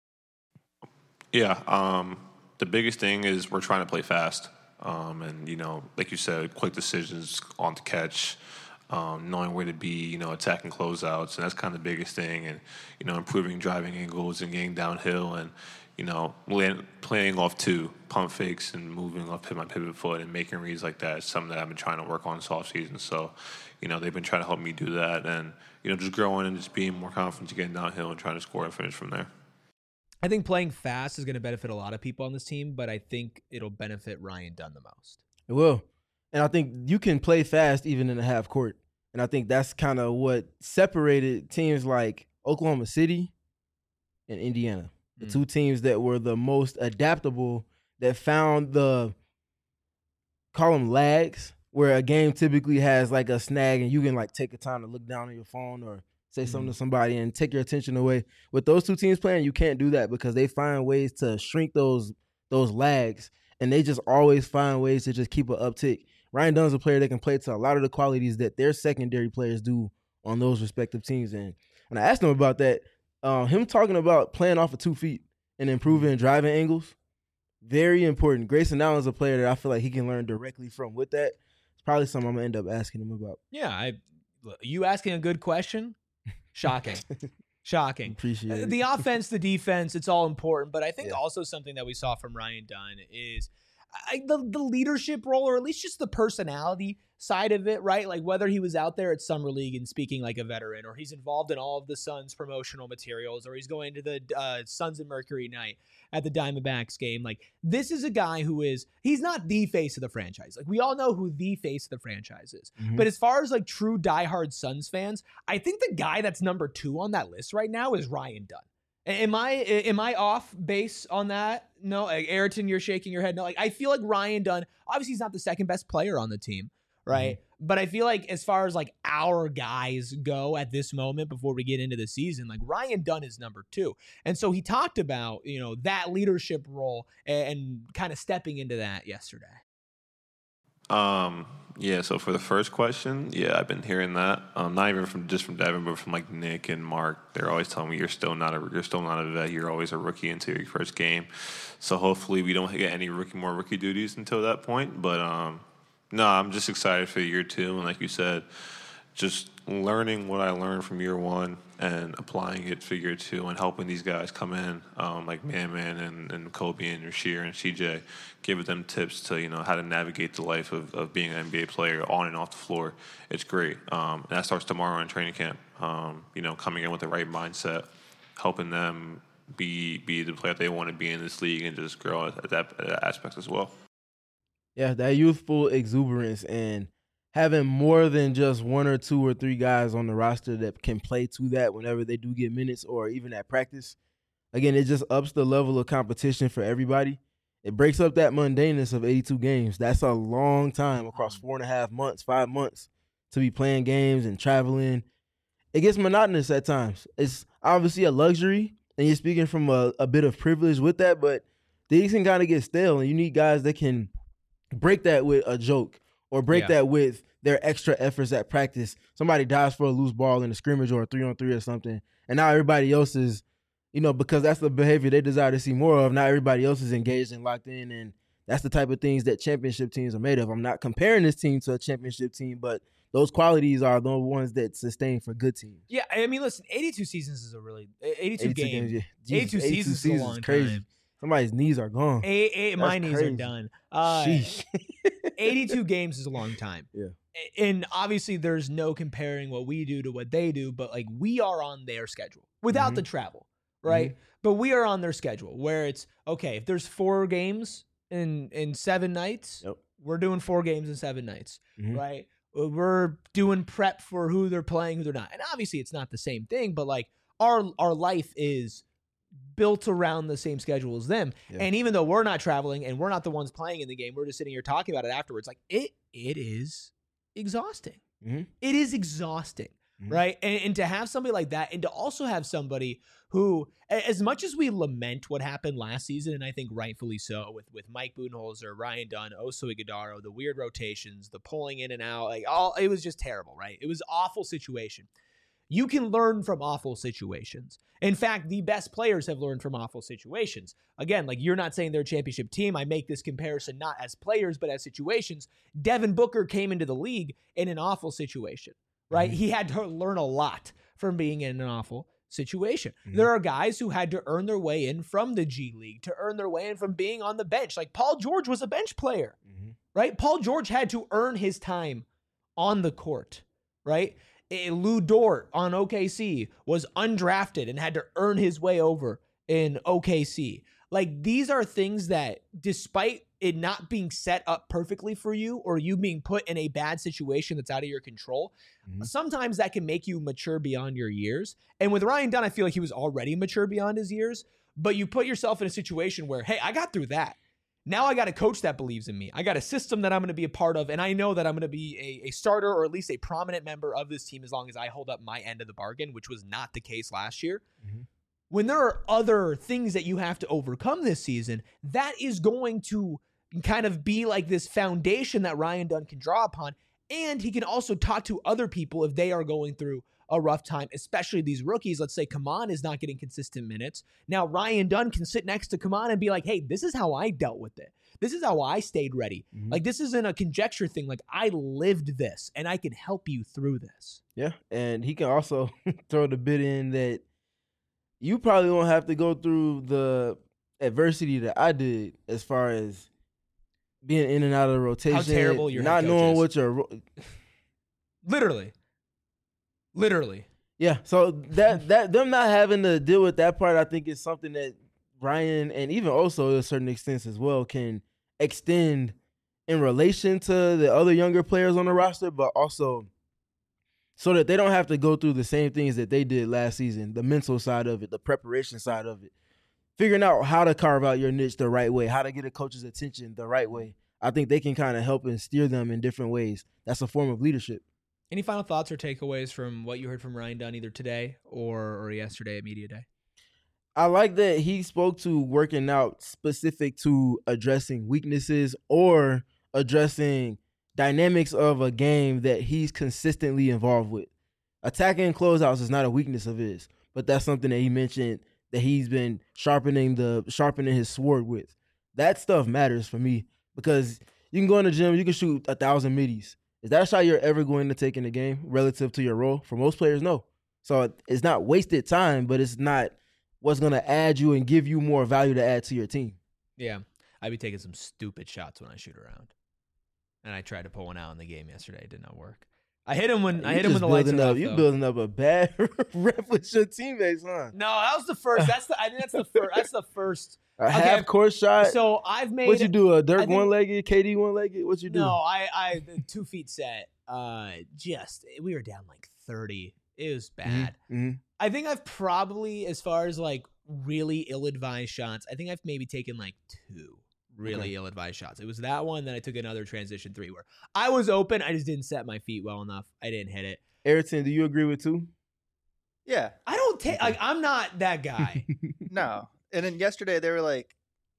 Yeah. Um, the biggest thing is we're trying to play fast. Um, and, you know, like you said, quick decisions on the catch. Um, knowing where to be, you know, attacking closeouts, and that's kind of the biggest thing. And, you know, improving driving angles and getting downhill and, you know, land, playing off two, pump fakes and moving off my pivot foot and making reads like that is something that I've been trying to work on this offseason. So, you know, they've been trying to help me do that and, you know, just growing and just being more confident to getting downhill and trying to score and finish from there. I think playing fast is going to benefit a lot of people on this team, but I think it'll benefit Ryan Dunn the most. It will. And I think you can play fast even in a half court. And I think that's kind of what separated teams like Oklahoma City and Indiana, the mm. two teams that were the most adaptable, that found the, call them lags, where a game typically has like a snag and you can like take a time to look down on your phone or say mm. something to somebody and take your attention away. With those two teams playing, you can't do that because they find ways to shrink those those lags, and they just always find ways to just keep an uptick. Ryan Dunn's a player that can play to a lot of the qualities that their secondary players do on those respective teams. And when I asked him about that, uh, him talking about playing off of two feet and improving driving angles, very important. Grayson Allen's a player that I feel like he can learn directly from. With that, it's probably something I'm going to end up asking him about. Yeah, I, you asking a good question? Shocking. Shocking. Appreciate it. The offense, the defense, it's all important. But I think yeah. also something that we saw from Ryan Dunn is I, the, the leadership role, or at least just the personality side of it, right? Like whether he was out there at Summer League and speaking like a veteran, or he's involved in all of the Suns promotional materials, or he's going to the uh, Suns and Mercury night at the Diamondbacks game. Like this is a guy who is, he's not the face of the franchise. Like we all know who the face of the franchise is. Mm-hmm. But as far as like true diehard Suns fans, I think the guy that's number two on that list right now is Ryan Dunn. Am I am I off base on that? No, like Ayrton, you're shaking your head. No, like I feel like Ryan Dunn, obviously he's not the second best player on the team, right? Mm-hmm. But I feel like as far as like our guys go at this moment before we get into the season, like Ryan Dunn is number two. And so he talked about, you know, that leadership role and, and kind of stepping into that yesterday. Um, yeah, so for the first question, yeah, I've been hearing that. Um, not even from just from Devin, but from like Nick and Mark. They're always telling me you're still not a you're still not a vet. You're always a rookie until your first game. So hopefully we don't get any rookie more rookie duties until that point. But um, no, I'm just excited for year two, and like you said, just learning what I learned from year one and applying it for year two and helping these guys come in, um, like Man Man and, and Kobe and Rasheer and C J, giving them tips to, you know, how to navigate the life of, of being an N B A player on and off the floor. It's great. Um, and that starts tomorrow in training camp, um, you know, coming in with the right mindset, helping them be be the player they want to be in this league and just grow at that, at that aspect as well. Yeah, that youthful exuberance and having more than just one or two or three guys on the roster that can play to that whenever they do get minutes or even at practice. Again, it just ups the level of competition for everybody. It breaks up that mundaneness of eighty-two games. That's a long time across four and a half months, five months to be playing games and traveling. It gets monotonous at times. It's obviously a luxury, and you're speaking from a, a bit of privilege with that, but these can kind of get stale, and you need guys that can break that with a joke or break Yeah. that with their extra efforts at practice. Somebody dives for a loose ball in a scrimmage or a three-on-three or something, and now everybody else is, you know, because that's the behavior they desire to see more of, now everybody else is engaged and locked in, and that's the type of things that championship teams are made of. I'm not comparing this team to a championship team, but those qualities are the ones that sustain for good teams. Yeah, I mean, listen, eighty-two seasons is a really eighty-two, eighty-two games. yeah. eighty-two Jesus, seasons is a long crazy. time. Somebody's knees are gone. A, a, my That's knees crazy. are done. Uh, Sheesh. eighty-two games is a long time. Yeah. And obviously there's no comparing what we do to what they do, but like we are on their schedule without Mhm. the travel, right? But we are on their schedule where it's okay, if there's four games in in seven nights, Yep. we're doing four games in seven nights, Mhm. right? We're doing prep for who they're playing, who they're not. And obviously it's not the same thing, but like our our life is built around the same schedule as them. Yeah. And even though we're not traveling and we're not the ones playing in the game, we're just sitting here talking about it afterwards. Like it it is exhausting. Mhm. It is exhausting, Mhm. right? And, and to have somebody like that, and to also have somebody who, a- as much as we lament what happened last season, and I think rightfully so, with with Mike Budenholzer, Ryan Dunn, Oso Ighodaro, the weird rotations, the pulling in and out, like all, it was just terrible, right? It was an awful situation. You can learn from awful situations. In fact, the best players have learned from awful situations. Again, like you're not saying they're a championship team. I make this comparison not as players, but as situations. Devin Booker came into the league in an awful situation, right? Mhm. He had to learn a lot from being in an awful situation. Mhm. There are guys who had to earn their way in from the G League, to earn their way in from being on the bench. Like Paul George was a bench player, Mhm. right? Paul George had to earn his time on the court, right? Eh, Lou Dort on O K C was undrafted and had to earn his way over in O K C. Like these are things that, despite it not being set up perfectly for you or you being put in a bad situation that's out of your control, Mhm. sometimes that can make you mature beyond your years. And with Ryan Dunn, I feel like he was already mature beyond his years, but you put yourself in a situation where, hey, I got through that. Now I got a coach that believes in me. I got a system that I'm going to be a part of, and I know that I'm going to be a, a starter or at least a prominent member of this team as long as I hold up my end of the bargain, which was not the case last year. Mhm. When there are other things that you have to overcome this season, that is going to kind of be like this foundation that Ryan Dunn can draw upon, and he can also talk to other people if they are going through a rough time, especially these rookies. Let's say Kaman is not getting consistent minutes. Now Ryan Dunn can sit next to Kaman and be like, hey, this is how I dealt with it. This is how I stayed ready. Mhm. Like this isn't a conjecture thing. Like I lived this and I can help you through this. Yeah, and he can also throw the bit in that you probably won't have to go through the adversity that I did as far as being in and out of the rotation. terrible your head not coach knowing is. what your ro- Literally. Literally. yeah. So that that them not having to deal with that part, I think, is something that Ryan and even also to a certain extent as well can extend in relation to the other younger players on the roster, but also so that they don't have to go through the same things that they did last season, the mental side of it, the preparation side of it, figuring out how to carve out your niche the right way, how to get a coach's attention the right way. I think they can kind of help and steer them in different ways. That's a form of leadership. Any final thoughts or takeaways from what you heard from Ryan Dunn either today or, or yesterday at Media Day? I like that he spoke to working out specific to addressing weaknesses or addressing dynamics of a game that he's consistently involved with. Attacking closeouts is not a weakness of his, but that's something that he mentioned that he's been sharpening the sharpening his sword with. That stuff matters for me because you can go in the gym, you can shoot a thousand middies, Is that a shot you're ever going to take in the game relative to your role? For most players, no. So it's not wasted time, but it's not what's going to add you and give you more value to add to your team. Yeah. I'd be taking some stupid shots when I shoot around. And I tried to pull one out in the game yesterday. It did not work. I hit him when You I hit him when just the lights building were up, off. You though. building up a bad rep with your teammates, huh? No, that was the first. That's the. I think that's the first. That's the first. A Okay, half court shot. So I've made. What you do? A I Dirk think- one legged, K D one legged? What you do? No, I I the two feet set. Uh, just we were down like thirty. It was bad. Mm-hmm. I think I've probably, as far as like really ill-advised shots, I think I've maybe taken like two really Okay. ill-advised shots. It was that one, then I took another transition three where I was open, I just didn't set my feet well enough. I didn't hit it. Ayrton, do you agree with two? Yeah. I don't take. Like, I'm not that guy. No. And then yesterday they were like,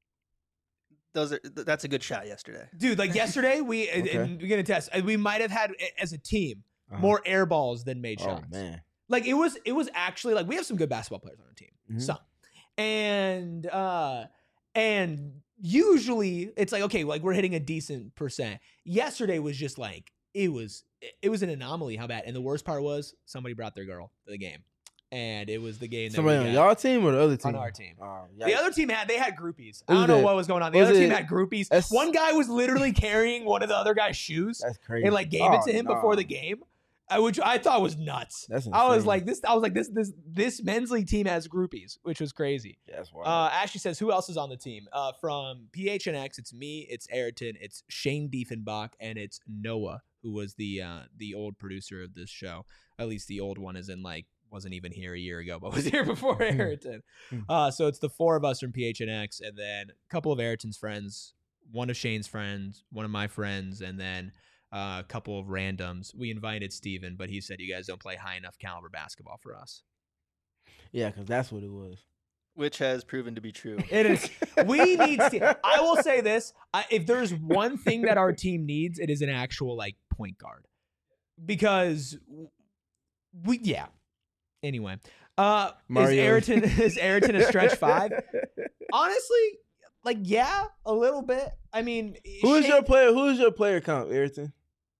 "Those are th- that's a good shot yesterday." Dude, like yesterday, we Okay. and we're gonna test. We might have had as a team Uh-huh. more air balls than made Oh shots. man. Like it was, it was actually like we have some good basketball players on our team, Mhm. some, and uh, and usually it's like okay, like we're hitting a decent percent. Yesterday was just like it was, it was an anomaly how bad. And the worst part was somebody brought their girl to the game, and it was the game that Somebody we on got y'all team or the other team? on our team. Oh, The yikes. other team had they had groupies. I Who's don't know that? what was going on. The Was other team it- had groupies. that's- One guy was literally carrying one of the other guy's shoes That's crazy. and like gave it Oh, to him nah. before the game, uh, which I thought was nuts. That's I was insane. like this. I was like this. This this men's league team has groupies, which was crazy. Yeah, that's wild. Uh, Ashley says, "Who else is on the team?" Uh, from P H N X, it's me, it's Ayrton, it's Shane Diefenbach, and it's Noah, who was the uh, the old producer of this show. At least the old one is in like wasn't even here a year ago, but was here before Ayrton. Uh, so it's the four of us from P H N X, and then a couple of Ayrton's friends, one of Shane's friends, one of my friends, and then uh, a couple of randoms. We invited Steven, but he said you guys don't play high enough caliber basketball for us. Yeah, because that's what it was. Which has proven to be true. It is. We need. Ste- I will say this: I, if there's one thing that our team needs, it is an actual like point guard, because we yeah. Anyway, uh, is Mario. Ayrton is Ayrton a stretch five? Honestly, like yeah, a little bit. I mean, Who is Shane- your player? Who is your player comp, Ayrton?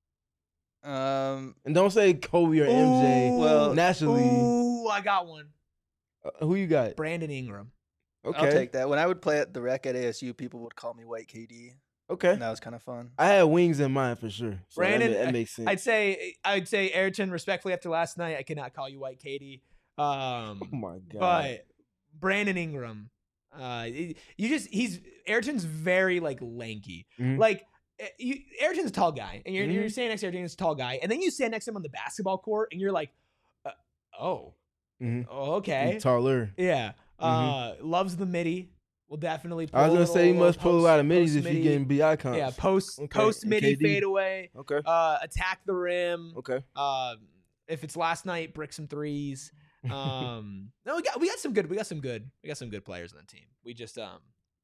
Um, And don't say Kobe or M J. Ooh, Well, nationally, Ooh, I got one. uh, who you got? Brandon Ingram. Okay, I'll take that. When I would play at the rec at A S U, people would call me White K D, okay. and that was kind of fun. I had wings in mind for sure. So Brandon, that, that makes sense. I'd say I'd say Ayrton. Respectfully, after last night, I cannot call you White Katie. Um, oh my god! But Brandon Ingram, uh, it- you just he's Ayrton's very like lanky. Mhm. Like eh, you, Ayrton's a tall guy, and you're you're Mhm. standing next to Ayrton, he's a tall guy, and then you stand next to him on the basketball court, and you're like, uh, oh, Mhm. oh, okay, He's taller. yeah. Uh, loves the midi. Will definitely. Pull I was a gonna say he little- must pull a post- lot of middies post if midi. you getting B I comps. Yeah, post Okay, post and midi K D. fadeaway. Okay. Uh, attack the rim. Okay. Uh, if it's last night, brick some threes. Um, no, we got we got some good we got some good we got some good players on the team. We just um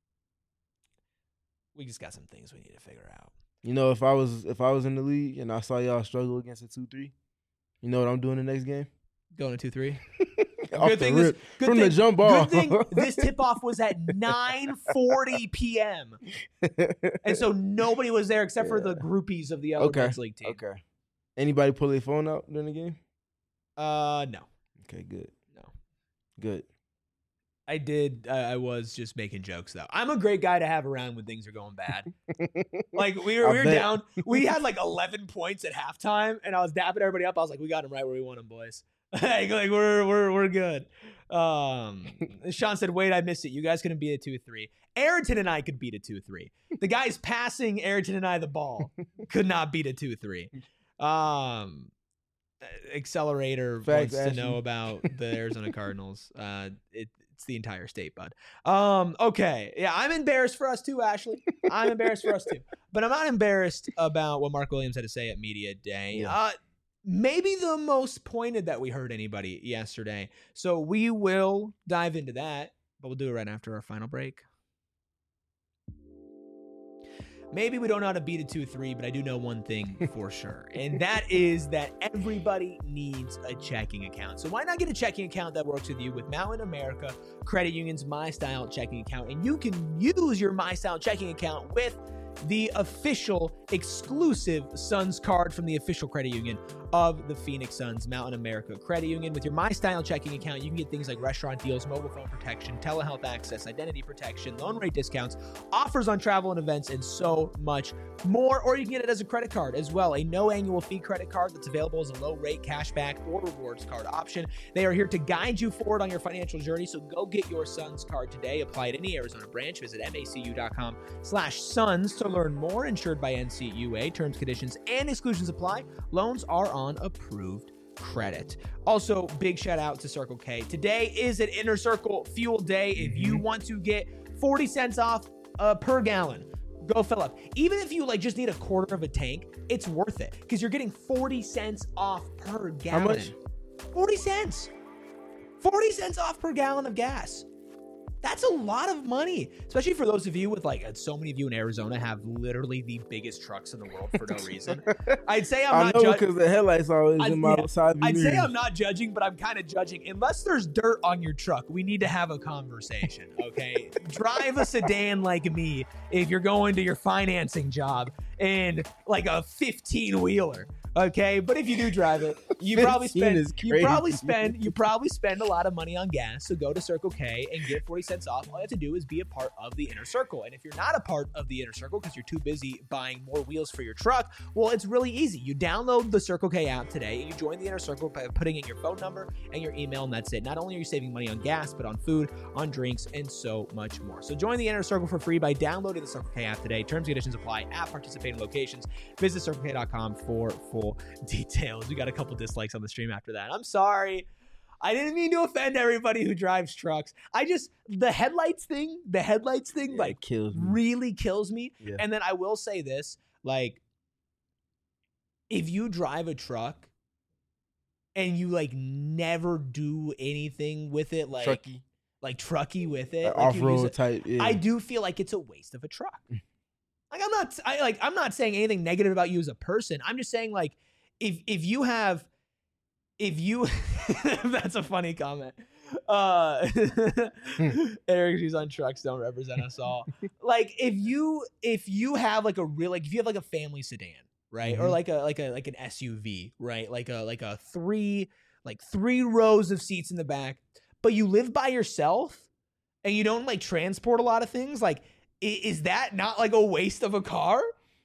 we just got some things we need to figure out. You know, if I was if I was in the league and I saw y'all struggle against a two three, you know what I'm doing the next game? Going to two three. Off Good the thing this rip, good from thing, the jump ball. Good thing this tip off was at nine forty p.m. and so nobody was there except for the groupies of the other Okay. men's league team. Okay. Anybody pull their phone out during the game? Uh, no, Okay, good. no. Good. I did. Uh, I was just making jokes though. I'm a great guy to have around when things are going bad. Like we were, I we were bet. down. We had like eleven points at halftime, and I was dapping everybody up. I was like, "We got them right where we want them, boys. like, like we're we're we're good." Um, Sean said, "Wait, I missed it. You guys couldn't beat a two three. Ayrton and I could beat a two three. The guys passing Ayrton and I the ball could not beat a two three. Um, Accelerator Facts, wants to know Ashley. about the Arizona Cardinals. Uh, it, it's the entire state, bud. Um, okay, yeah, I'm embarrassed for us too, Ashley. I'm embarrassed for us too, but I'm not embarrassed about what Mark Williams had to say at media day. Yeah. Uh, maybe the most pointed that we heard anybody yesterday. So we will dive into that, but we'll do it right after our final break. Maybe we don't know how to beat a two three, but I do know one thing for sure. And that is that everybody needs a checking account. So why not get a checking account that works with you with Mountain America Credit Union's My Style checking account? And you can use your My Style checking account with the official exclusive Suns card from the official credit union of the Phoenix Suns, Mountain America Credit Union. With your MyStyle checking account, you can get things like restaurant deals, mobile phone protection, telehealth access, identity protection, loan rate discounts, offers on travel and events, and so much more. Or you can get it as a credit card as well, a no annual fee credit card that's available as a low rate cashback or rewards card option. They are here to guide you forward on your financial journey, so go get your Suns card today. Apply at any Arizona branch. Visit macu.com slash Suns to learn more. Insured by N C U A. Terms, conditions, and exclusions apply. Loans are on approved credit. Also, big shout out to Circle K. Today is an Inner Circle Fuel Day. If you want to get forty cents off uh, per gallon, go fill up. Even if you like just need a quarter of a tank, it's worth it because you're getting forty cents off per gallon. How much? forty cents. forty cents off per gallon of gas. That's a lot of money, especially for those of you with like, so many of you in Arizona have literally the biggest trucks in the world for no reason. I'd say I'm I not know judging. because the headlights always I'd, in my yeah, side I'd mirrors. say I'm not judging, but I'm kind of judging. Unless there's dirt on your truck, we need to have a conversation, okay? Drive a sedan like me if you're going to your financing job and like a fifteen-wheeler. Okay, but if you do drive it, you probably spend is you probably crazy. spend you probably spend a lot of money on gas. So go to Circle K and get forty cents off. All you have to do is be a part of the Inner Circle. And if you're not a part of the Inner Circle because you're too busy buying more wheels for your truck, well, it's really easy. You download the Circle K app today and you join the Inner Circle by putting in your phone number and your email, and that's it. Not only are you saving money on gas, but on food, on drinks, and so much more. So join the Inner Circle for free by downloading the Circle K app today. Terms and conditions apply at participating locations. Visit circle k dot com for full details. We got a couple dislikes on the stream after that. I'm sorry. I didn't mean to offend everybody who drives trucks. I just, the headlights thing, the headlights thing, Yeah, like, it kills me. really kills me. Yeah. And then I will say this, like, if you drive a truck and you, like, never do anything with it, like, Trucky. like trucky with it, Like like you use off-road it, type. Yeah. I do feel like it's a waste of a truck. Like I'm not, I like, I'm not saying anything negative about you as a person. I'm just saying, like, if if you have, if you, that's a funny comment. Uh, Eric, she's on trucks, don't represent us all. Like, if you if you have like a real, like if you have like a family sedan, right, or Mhm. like a like a like an S U V, right, like a like a three like three rows of seats in the back, but you live by yourself and you don't like transport a lot of things, like. Is that not like a waste of a car?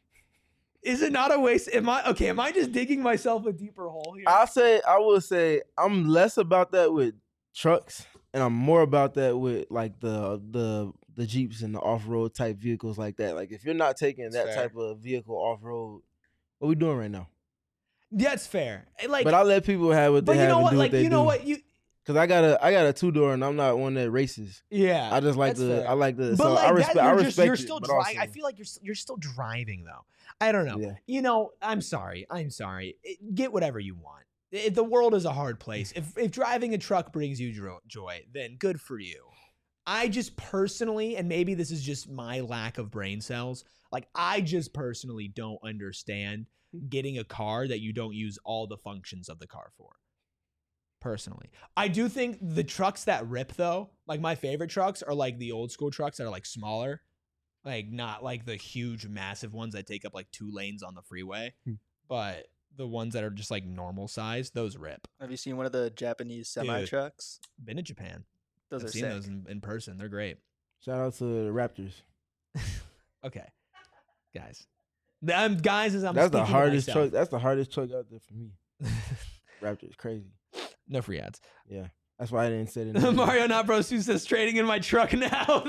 Is it not a waste? Am I okay? Am I just digging myself a deeper hole here? I'll say, I will say, I'm less about that with trucks, and I'm more about that with like the the the Jeeps and the off road type vehicles like that. Like if you're not taking that Fair. type of vehicle off road, what we doing right now? That's fair. Like, but I let people have what but they you have know and what? do Like, what they you know do. what? You Cause I got a I got a two door and I'm not one that races. yeah. I just like that's the fair. I like the But so like I that, respect you're I just- respect You're it, still but driving. I also- feel like you're you're still driving though. I don't know. Yeah. You know, I'm sorry. I'm sorry. It- get whatever you want. It- the world is a hard place. If if driving a truck brings you dro- joy, then good for you. I just personally, and maybe this is just my lack of brain cells, like I just personally don't understand getting a car that you don't use all the functions of the car for. Personally, I do think the trucks that rip though, like my favorite trucks are like the old school trucks that are like smaller, like not like the huge massive ones that take up like two lanes on the freeway, Hmm. but the ones that are just like normal size, those rip. Have you seen one of the Japanese semi trucks? Been to Japan. Those I've are seen sick. those in, in person. They're great. Shout out to the Raptors. Okay, guys. Um, guys, as I'm That's the speaking to hardest myself. truck. That's the hardest truck out there for me. Raptors, crazy. No free ads. Yeah, that's why I didn't say it. Mario Not Bros who says trading in my truck now.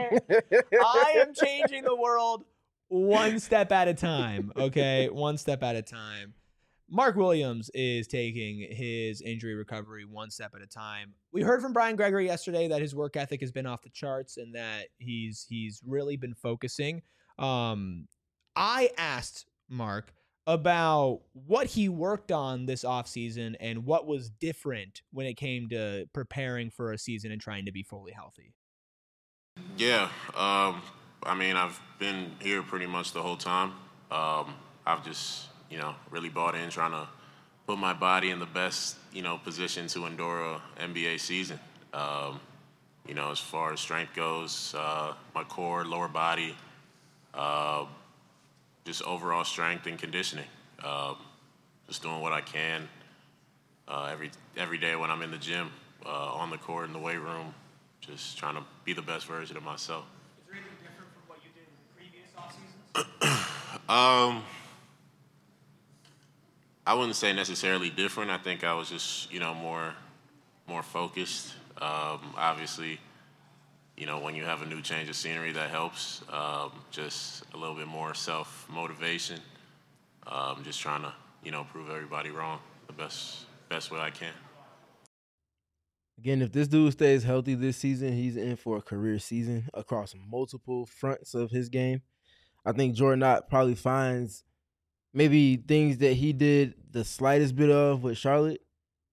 I am changing the world one step at a time. Okay, one step at a time. Mark Williams is taking his injury recovery one step at a time. We heard from Brian Gregory yesterday that his work ethic has been off the charts and that he's he's really been focusing. Um, I asked Mark about what he worked on this offseason and what was different when it came to preparing for a season and trying to be fully healthy. Yeah, um, I mean, I've been here pretty much the whole time. Um, I've just, you know, really bought in trying to put my body in the best, you know, position to endure a N B A season. Um, you know, as far as strength goes, uh, my core, lower body, uh, just overall strength and conditioning. Um, just doing what I can uh, every every day when I'm in the gym, uh, on the court, in the weight room, just trying to be the best version of myself. Is there anything different from what you did in previous off seasons? um, I wouldn't say necessarily different. I think I was just, you know, more more focused. Um, obviously, you know, when you have a new change of scenery, that helps. Um, just a little bit more self-motivation. Um, just trying to, you know, prove everybody wrong the best best way I can. Again, if this dude stays healthy this season, he's in for a career season across multiple fronts of his game. I think Jordan Knott probably finds maybe things that he did the slightest bit of with Charlotte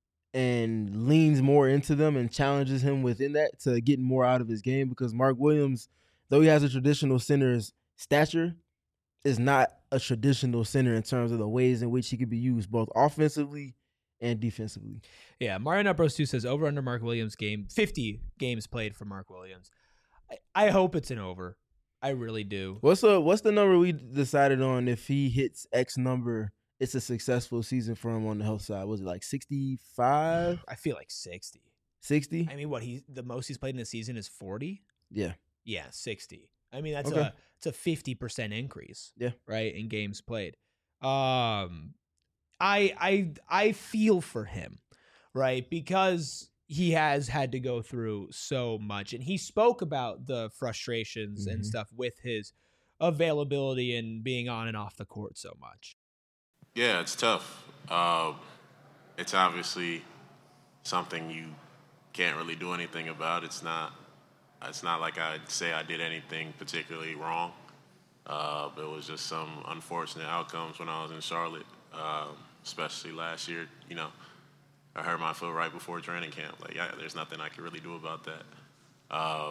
and leans more into them and challenges him within that to get more out of his game, because Mark Williams, though he has a traditional center's stature, is not a traditional center in terms of the ways in which he could be used both offensively and defensively. Yeah, Mario Nutbros two says over under Mark Williams game, fifty games played for Mark Williams. I, I hope it's an over. I really do. What's the what's the number we decided on? If he hits X number, it's a successful season for him on the health side. Was it like sixty-five? I feel like sixty. sixty? I mean, what he the most he's played in a season is forty? Yeah. Yeah, sixty. I mean, that's Okay. a it's a fifty percent increase. Yeah. Right, in games played. Um I I I feel for him, right? Because he has had to go through so much, and he spoke about the frustrations Mhm. and stuff with his availability and being on and off the court so much. Yeah, it's tough. Uh, it's obviously something you can't really do anything about. It's not. It's not like I'd say I did anything particularly wrong. Uh, it was just some unfortunate outcomes when I was in Charlotte, uh, especially last year. You know, I hurt my foot right before training camp. Like, yeah, there's nothing I could really do about that. Uh,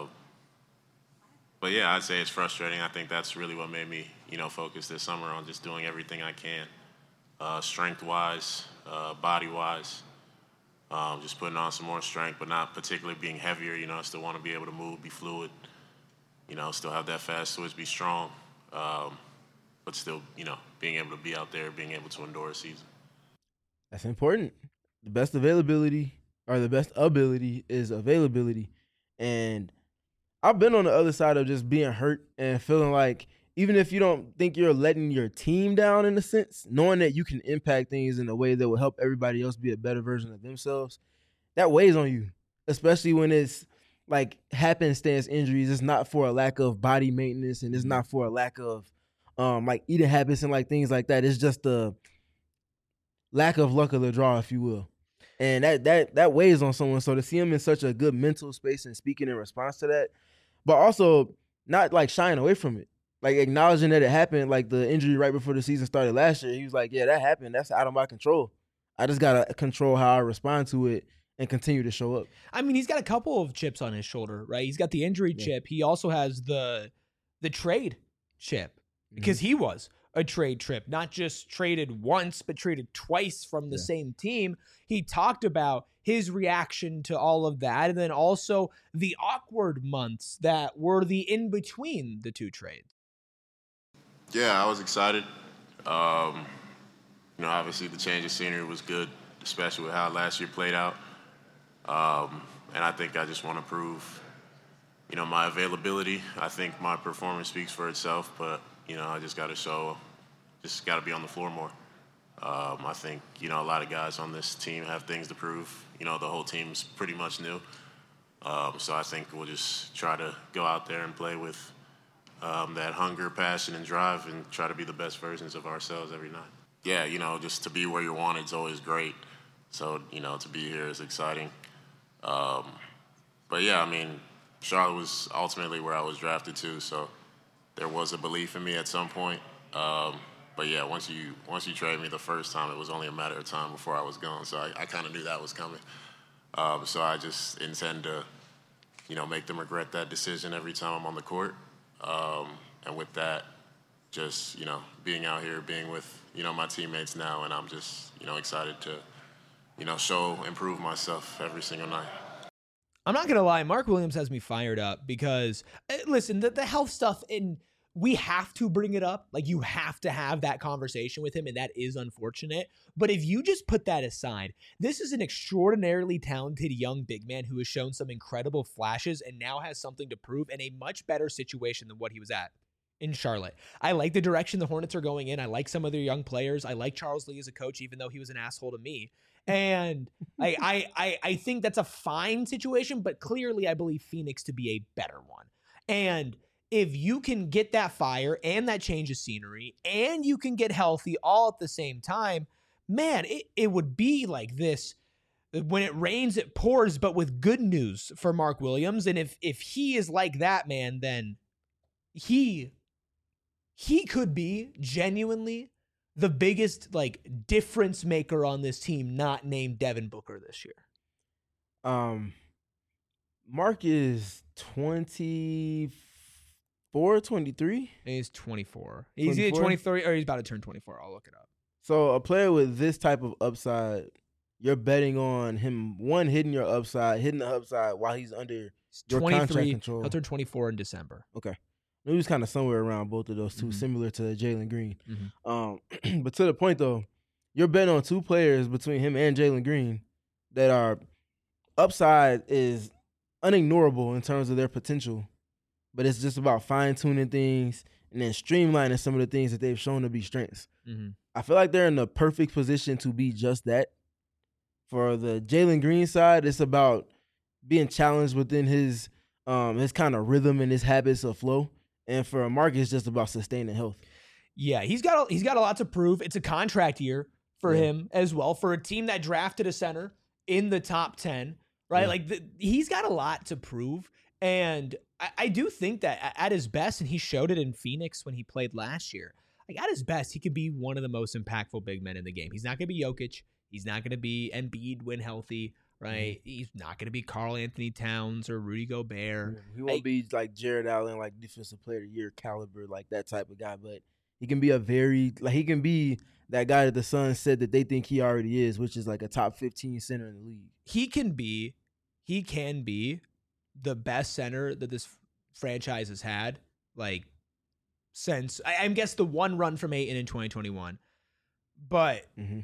but yeah, I'd say it's frustrating. I think that's really what made me, you know, focus this summer on just doing everything I can, uh, strength-wise, uh, body-wise. Um, just putting on some more strength, but not particularly being heavier. You know, I still want to be able to move, be fluid. You know, still have that fast switch, be strong, um, but still, you know, being able to be out there, being able to endure a season. That's important. The best availability or the best ability is availability. And I've been on the other side of just being hurt and feeling like even if you don't think you're letting your team down in a sense, knowing that you can impact things in a way that will help everybody else be a better version of themselves, that weighs on you, especially when it's like happenstance injuries. It's not for a lack of body maintenance, and it's not for a lack of um, like eating habits and like things like that. It's just the lack of luck of the draw, if you will. And that that that weighs on someone. So to see him in such a good mental space and speaking in response to that, but also not like shying away from it. Like acknowledging that it happened, like the injury right before the season started last year. He was like, yeah, that happened. That's out of my control. I just got to control how I respond to it and continue to show up. I mean, he's got a couple of chips on his shoulder, right? He's got the injury Yeah. chip. He also has the the trade chip, because he was a trade trip, not just traded once, but traded twice from the Yeah. same team. He talked about his reaction to all of that, and then also the awkward months that were the in between the two trades. Yeah, I was excited. Um, you know, obviously the change of scenery was good, especially with how last year played out. Um, and I think I just want to prove, you know, my availability. I think my performance speaks for itself, but, you know, I just got to show, just got to be on the floor more. Um, I think, you know, a lot of guys on this team have things to prove. You know, the whole team's pretty much new. Um, so I think we'll just try to go out there and play with Um, that hunger, passion, and drive, and try to be the best versions of ourselves every night. Yeah, you know, just to be where you're wanted is always great. So, you know, to be here is exciting. Um, but, yeah, I mean, Charlotte was ultimately where I was drafted to, so there was a belief in me at some point. Um, but, yeah, once you once you trade me the first time, it was only a matter of time before I was gone. So I, I kind of knew that was coming. Um, so I just intend to, you know, make them regret that decision every time I'm on the court. Um, and with that, just, you know, being out here, being with, you know, my teammates now, and I'm just, you know, excited to, you know, show, improve myself every single night. I'm not going to lie, Mark Williams has me fired up because, uh, listen, the, the health stuff in we have to bring it up. Like, you have to have that conversation with him, and that is unfortunate. But if you just put that aside, this is an extraordinarily talented young big man who has shown some incredible flashes and now has something to prove in a much better situation than what he was at in Charlotte. I like the direction the Hornets are going in. I like some of their young players. I like Charles Lee as a coach, even though he was an asshole to me. And I, I, I, I think that's a fine situation, but clearly I believe Phoenix to be a better one. And if you can get that fire and that change of scenery and you can get healthy all at the same time, man, it, it would be like this. When it rains, it pours, but with good news for Mark Williams. And if if he is like that, man, then he he could be genuinely the biggest like difference maker on this team, not named Devin Booker this year. Um, Mark is twenty-four, twenty-three. He's twenty-four. He's either twenty-three or he's about to turn twenty-four. I'll look it up. So a player with this type of upside, you're betting on him, one, hitting your upside, hitting the upside while he's under your contract control. He'll turn twenty-four in December. Okay. He was kind of somewhere around both of those two, mm-hmm. similar to Jalen Green. Mm-hmm. Um, but to the point, though, you're betting on two players between him and Jalen Green that are upside is unignorable in terms of their potential, but it's just about fine-tuning things and then streamlining some of the things that they've shown to be strengths. Mm-hmm. I feel like they're in the perfect position to be just that. For the Jalen Green side, it's about being challenged within his um, his kind of rhythm and his habits of flow. And for Mark, it's just about sustaining health. Yeah, he's got a, he's got a lot to prove. It's a contract year for yeah. him as well. For a team that drafted a center in the top ten, right? Yeah. Like the, he's got a lot to prove. And I, I do think that at his best, and he showed it in Phoenix when he played last year, like at his best, he could be one of the most impactful big men in the game. He's not going to be Jokic. He's not going to be Embiid when healthy, right? Mm-hmm. He's not going to be Karl Anthony Towns or Rudy Gobert. He won't like, be like Jared Allen, like defensive player of the year caliber, like that type of guy. But he can be a very, like he can be that guy that the Suns said that they think he already is, which is like a top fifteen center in the league. He can be, he can be the best center that this franchise has had, like since, I, I guess the one run from Ayton in twenty twenty-one. But mm-hmm.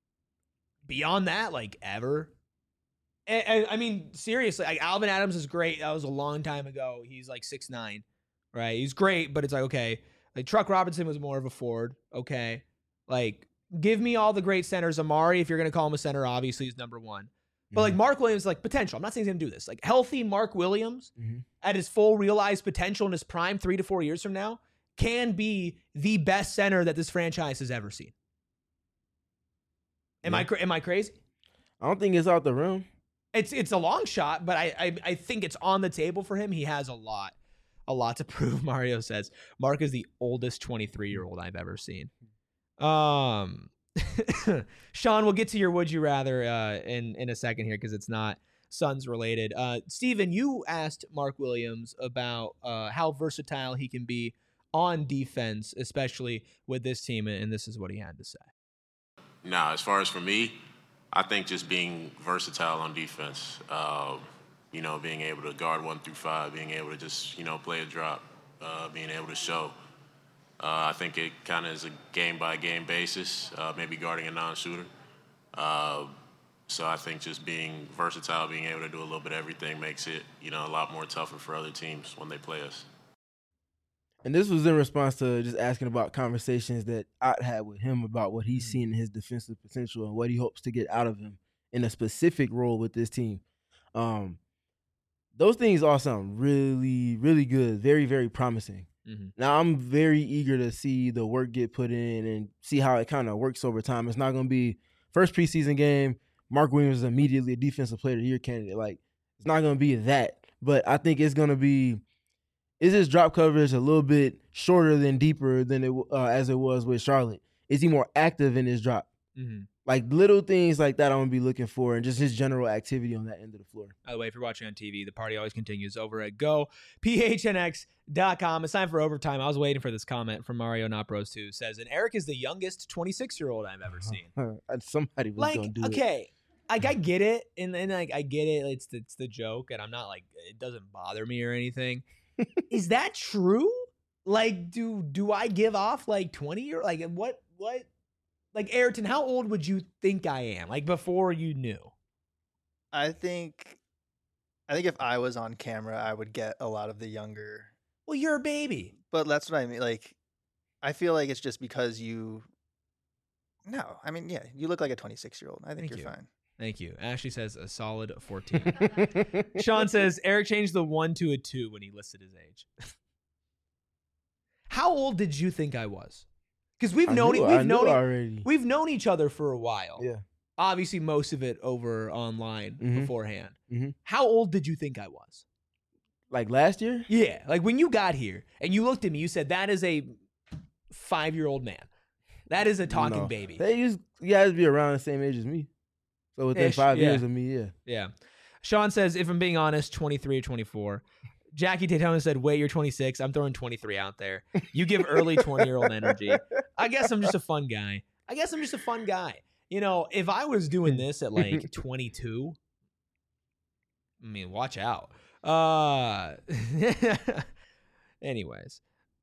beyond that, like ever. And, and I mean, seriously, like Alvin Adams is great. That was a long time ago. He's like six nine, right? He's great, but it's like, okay. Like Truck Robinson was more of a forward. Okay. Like, give me all the great centers. Amari, if you're going to call him a center, obviously he's number one. But mm-hmm. like Mark Williams, like potential. I'm not saying he's going to do this. Like healthy Mark Williams mm-hmm. at his full realized potential in his prime three to four years from now can be the best center that this franchise has ever seen. Am yeah. I am I crazy? I don't think it's out the room. It's it's a long shot, but I, I I think it's on the table for him. He has a lot, a lot to prove. Mario says Mark is the oldest twenty-three-year-old I've ever seen. Um, Sean, we'll get to your would you rather uh, in in a second here because it's not Suns related. Uh, Steven, you asked Mark Williams about uh, how versatile he can be on defense, especially with this team, and this is what he had to say. Now, as far as for me, I think just being versatile on defense, uh, you know, being able to guard one through five, being able to just, you know, play a drop, uh, being able to show. Uh, I think it kind of is a game-by-game basis, uh, maybe guarding a non-shooter. Uh, so I think just being versatile, being able to do a little bit of everything makes it, you know, a lot more tougher for other teams when they play us. And this was in response to just asking about conversations that I had with him about what he's seen in his defensive potential and what he hopes to get out of him in a specific role with this team. Um, those things all sound really, really good, very, very promising. Mm-hmm. Now, I'm very eager to see the work get put in and see how it kind of works over time. It's not going to be first preseason game, Mark Williams is immediately a defensive player of the year candidate. Like, it's not going to be that. But I think it's going to be, is his drop coverage a little bit shorter than deeper than it uh, as it was with Charlotte? Is he more active in his drop? Mm-hmm. Like little things like that I'm going to be looking for and just his general activity on that end of the floor. By the way, if you're watching on T V, the party always continues over at go P H N X dot com. It's time for overtime. I was waiting for this comment from Mario Not Bros two. Says, and Eric is the youngest twenty-six-year-old I've ever seen. Somebody was like, going to do okay, it. Okay, like I get it, and then like I get it. It's the, it's the joke, and I'm not like, it doesn't bother me or anything. Is that true? Like, do do I give off like twenty or like what what? Like, Ayrton, how old would you think I am? Like, before you knew? I think, I think if I was on camera, I would get a lot of the younger. Well, you're a baby. But that's what I mean. Like, I feel like it's just because you. No, I mean, yeah, you look like a twenty-six year old. I think Thank you're you. fine. Thank you. Ashley says a solid fourteen. Sean says Eric changed the one to a two when he listed his age. How old did you think I was? Because we've I known knew- we've I known knew e- already. we've known each other for a while. Yeah. Obviously, most of it over online Mhm. beforehand. Mhm. How old did you think I was? Like last year? Yeah, like when you got here and you looked at me, you said that is a five-year-old man. That is a talking No. baby. They used you guys be around the same age as me. So within Ish, five yeah. years of me, yeah. Yeah. Sean says, if I'm being honest, twenty-three or twenty-four. Jackie Daytona said, wait, you're twenty-six. I'm throwing twenty-three out there. You give early twenty-year-old energy. I guess I'm just a fun guy. I guess I'm just a fun guy. You know, if I was doing this at like twenty-two, I mean, watch out. Uh, anyways.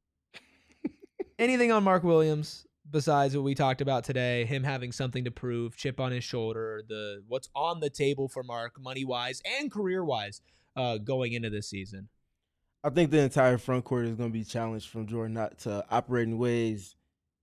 Anything on Mark Williams besides what we talked about today? Him having something to prove, chip on his shoulder, the what's on the table for Mark, money-wise and career-wise, uh, going into this season? I think the entire front court is going to be challenged from Jordan not to operate in ways.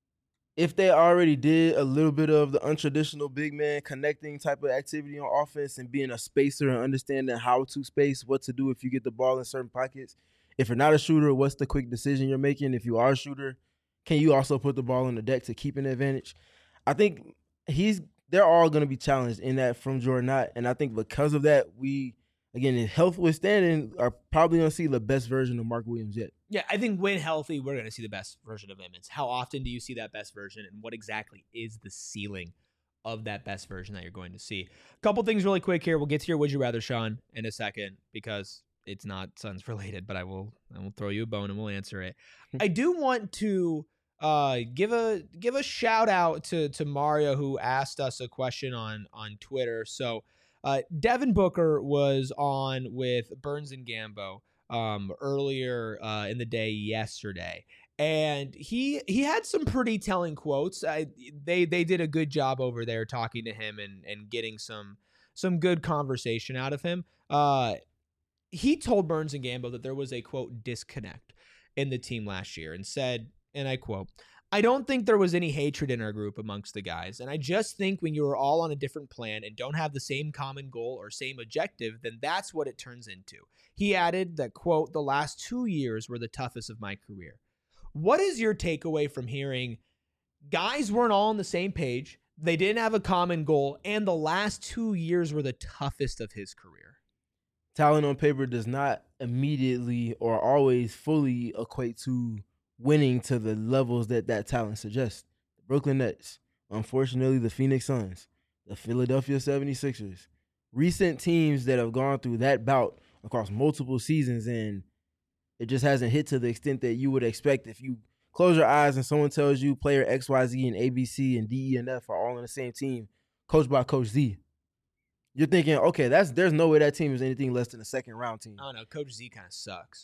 If they already did a little bit of the untraditional big man connecting type of activity on offense and being a spacer and understanding how to space, what to do if you get the ball in certain pockets. If you're not a shooter, what's the quick decision you're making? If you are a shooter, can you also put the ball on the deck to keep an advantage? I think he's they're all going to be challenged in that from Jordan Knott. And I think because of that, we, again, in health withstanding, are probably going to see the best version of Mark Williams yet. Yeah, I think when healthy, we're going to see the best version of him. It's how often do you see that best version, and what exactly is the ceiling of that best version that you're going to see? A couple things really quick here. We'll get to your Would You Rather, Sean, in a second, because it's not Suns related, but I will I will throw you a bone and we'll answer it. I do want to uh, give a give a shout out to to Mario, who asked us a question on on Twitter. So uh, Devin Booker was on with Burns and Gambo um, earlier uh, in the day yesterday, and he he had some pretty telling quotes. I, they they did a good job over there talking to him and and getting some some good conversation out of him. Uh, he told Burns and Gambo that there was a, quote, disconnect in the team last year, and said, and I quote, "I don't think there was any hatred in our group amongst the guys, and I just think when you are all on a different plan and don't have the same common goal or same objective, then that's what it turns into." He added that, quote, "The last two years were the toughest of my career." What is your takeaway from hearing guys weren't all on the same page, they didn't have a common goal, and the last two years were the toughest of his career? Talent on paper does not immediately or always fully equate to winning to the levels that that talent suggests. The Brooklyn Nets, unfortunately, the Phoenix Suns, the Philadelphia seventy-sixers, recent teams that have gone through that bout across multiple seasons, and it just hasn't hit to the extent that you would expect if you close your eyes and someone tells you player X, Y, Z, and A, B, C, and D, E, and F are all on the same team, coached by Coach Z. You're thinking, okay, that's there's no way that team is anything less than a second round team. I don't know. Coach Z kind of sucks.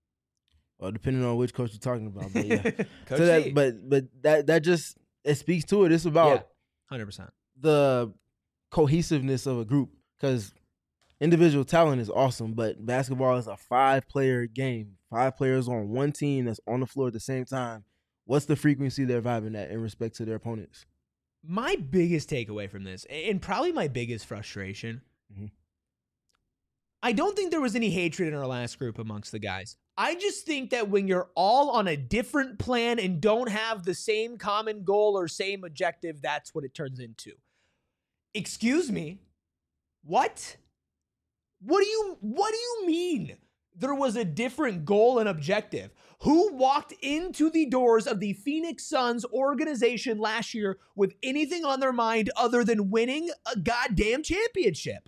Well, depending on which coach you're talking about, but yeah. Coach so that, Z. but but that that just it speaks to it. It's about Yeah, one hundred percent. the cohesiveness of a group, because individual talent is awesome, but basketball is a five-player game. Five players on one team that's on the floor at the same time. What's the frequency they're vibing at in respect to their opponents? My biggest takeaway from this, and probably my biggest frustration, Mhm. I don't think there was any hatred in our last group amongst the guys. I just think that when you're all on a different plan and don't have the same common goal or same objective, that's what it turns into. Excuse me? What? What do you what do you mean there was a different goal and objective? Who walked into the doors of the Phoenix Suns organization last year with anything on their mind other than winning a goddamn championship?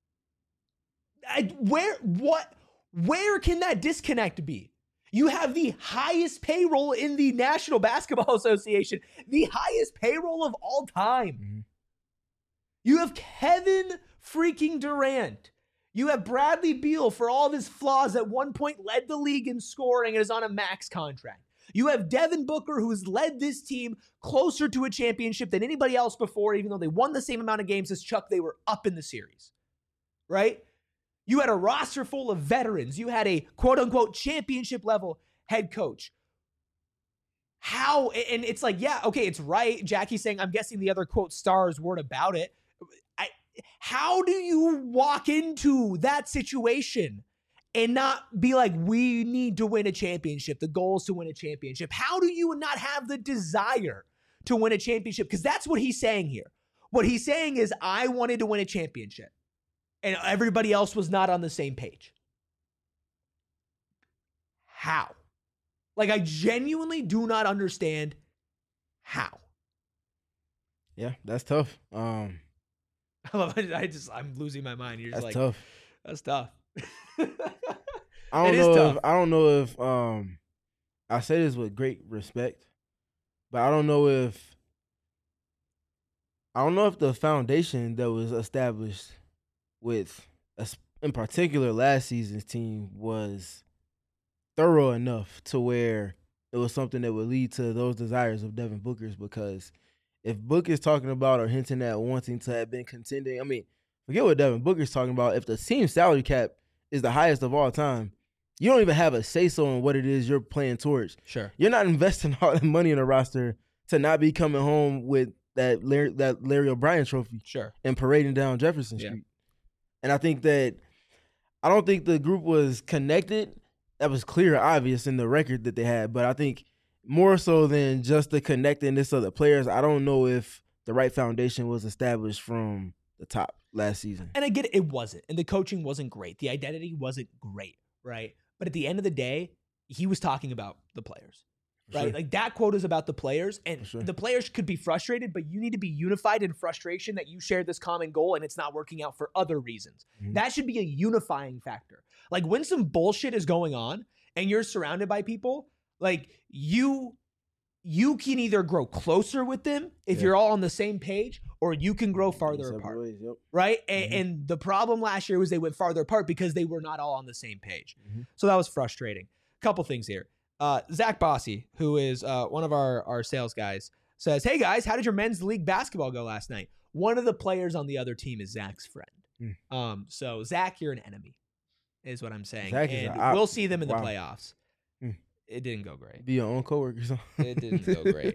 I, where, what, where can that disconnect be? You have the highest payroll in the National Basketball Association, the highest payroll of all time. Mm-hmm. You have Kevin freaking Durant. You have Bradley Beal, for all of his flaws, at one point led the league in scoring and is on a max contract. You have Devin Booker, who's led this team closer to a championship than anybody else before, even though they won the same amount of games as Chuck. They were up in the series, right? You had a roster full of veterans. You had a quote-unquote championship-level head coach. How? And it's like, yeah, okay, it's right. Jackie's saying, I'm guessing the other, quote, stars weren't about it. I, how do you walk into that situation and not be like, we need to win a championship? The goal is to win a championship. How do you not have the desire to win a championship? Because that's what he's saying here. What he's saying is, I wanted to win a championship, and everybody else was not on the same page. How? Like, I genuinely do not understand how. Yeah, that's tough. Um, I love it. I just, I'm losing my mind. You're just that's like, tough. That's tough. I don't It know is if tough. I don't know if um I say this with great respect, but I don't know if I don't know if the foundation that was established with us, in particular last season's team, was thorough enough to where it was something that would lead to those desires of Devin Booker's. Because if Book is talking about or hinting at wanting to have been contending, I mean, forget what Devin Booker's talking about. If the team salary cap is the highest of all time, you don't even have a say-so on what it is you're playing towards. Sure. You're not investing all that money in a roster to not be coming home with that Larry, that Larry O'Brien trophy. Sure. And parading down Jefferson Yeah. Street. And I think that, I don't think the group was connected. That was clear, obvious in the record that they had. But I think more so than just the connectedness of the players, I don't know if the right foundation was established from the top last season. And I get it, it wasn't. And the coaching wasn't great. The identity wasn't great, right? But at the end of the day, he was talking about the players, right? Sure. Like, that quote is about the players, and sure. the players could be frustrated, but you need to be unified in frustration that you share this common goal and it's not working out for other reasons. Mhm. That should be a unifying factor. Like, when some bullshit is going on and you're surrounded by people, like, you you can either grow closer with them if Yeah. you're all on the same page, or you can grow farther Separate apart. ways, yep. Right? And, Mhm. and the problem last year was they went farther apart because they were not all on the same page. Mhm. So that was frustrating. Couple things here. Uh, Zach Bossy, who is uh, one of our, our sales guys, says, hey guys, how did your men's league basketball go last night? One of the players on the other team is Zach's friend. Mm. Um, so Zach, you're an enemy, is what I'm saying. Zach is and a- I- we'll see them in wow. the playoffs. Mm. It didn't go great. Be your own coworker. So. It didn't go great.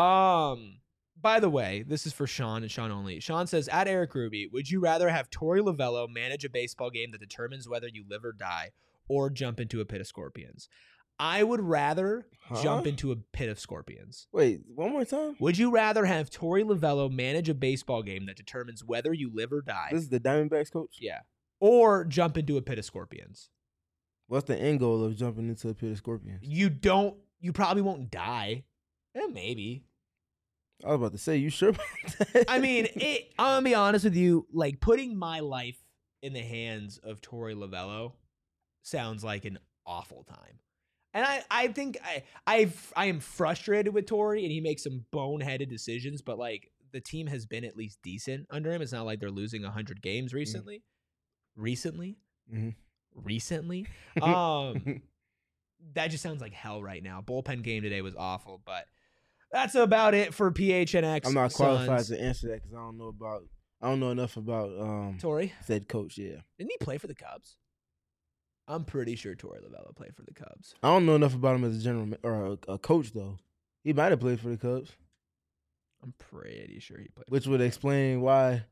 Um, by the way, this is for Sean and Sean only. Sean says, at Eric Ruby, would you rather have Tori Lavello manage a baseball game that determines whether you live or die, or jump into a pit of scorpions? I would rather Huh? jump into a pit of scorpions. Wait, one more time? Would you rather have Tori Lavello manage a baseball game that determines whether you live or die? This is the Diamondbacks coach? Yeah. Or jump into a pit of scorpions? What's the end goal of jumping into a pit of scorpions? You don't, you probably won't die. Eh, maybe. I was about to say, you sure about that? I mean, it, I'm gonna be honest with you. Like, putting my life in the hands of Tori Lavello sounds like an awful time, and I, I think I, I've, I am frustrated with Tori, and he makes some boneheaded decisions. But like, the team has been at least decent under him. It's not like they're losing a hundred games recently. Mm-hmm. Recently, mm-hmm. recently. Um, that just sounds like hell right now. Bullpen game today was awful, but. That's about it for P H N X. I'm not qualified Suns. to answer that because I don't know about I don't know enough about um Tori. said coach. Yeah, Didn't he play for the Cubs? I'm pretty sure Tori Lavello played for the Cubs. I don't know enough about him as a general ma- or a, a coach though. He might have played for the Cubs, I'm pretty sure he played. which would explain why.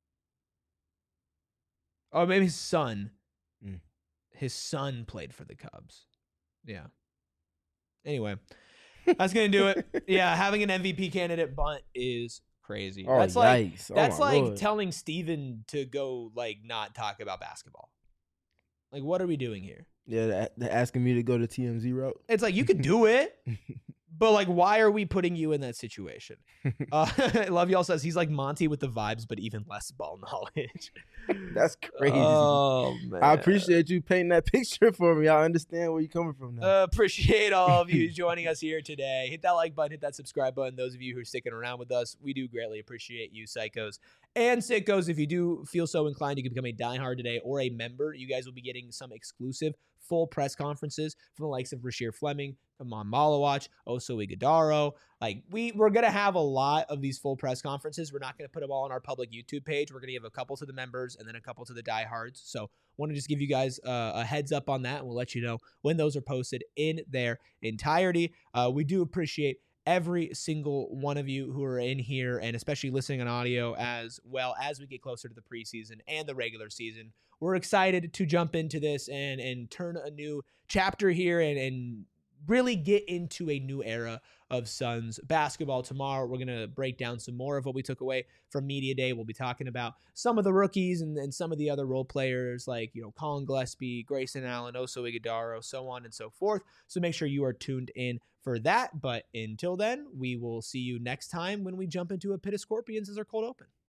Oh, maybe his son. Mm. His son played for the Cubs. Yeah. Anyway, that's gonna do it. Yeah, having an M V P candidate bunt is crazy. Oh, that's like yikes. Oh, that's my like Lord. telling Steven to go like not talk about basketball. Like, what are we doing here? Yeah, they're, they're asking me to go to T M Z route. It's like, you could do it, but like, why are we putting you in that situation? Uh, Love Y'all says he's like Monty with the vibes, but even less ball knowledge. That's crazy. Oh, man. I appreciate you painting that picture for me. I understand where you're coming from now. Uh, appreciate all of you joining us here today. Hit that like button, hit that subscribe button. Those of you who are sticking around with us, we do greatly appreciate you, psychos and sickos. If you do feel so inclined, you can become a diehard today or a member. You guys will be getting some exclusive full press conferences from the likes of Rasheer Fleming, Amon Malawach, Oso Ighodaro. Like, we, we're going to have a lot of these full press conferences. We're not going to put them all on our public YouTube page. We're going to give a couple to the members and then a couple to the diehards. So want to just give you guys uh, a heads up on that, and we'll let you know when those are posted in their entirety. Uh, we do appreciate every single one of you who are in here, and especially listening on audio, as well as we get closer to the preseason and the regular season. We're excited to jump into this and and turn a new chapter here and, and really get into a new era of Suns basketball. Tomorrow, we're going to break down some more of what we took away from Media Day. We'll be talking about some of the rookies and, and some of the other role players like, you know, Colin Gillespie, Grayson Allen, Oso Ighodaro, so on and so forth. So make sure you are tuned in for that. But until then, we will see you next time when we jump into a Pit of Scorpions as our cold open.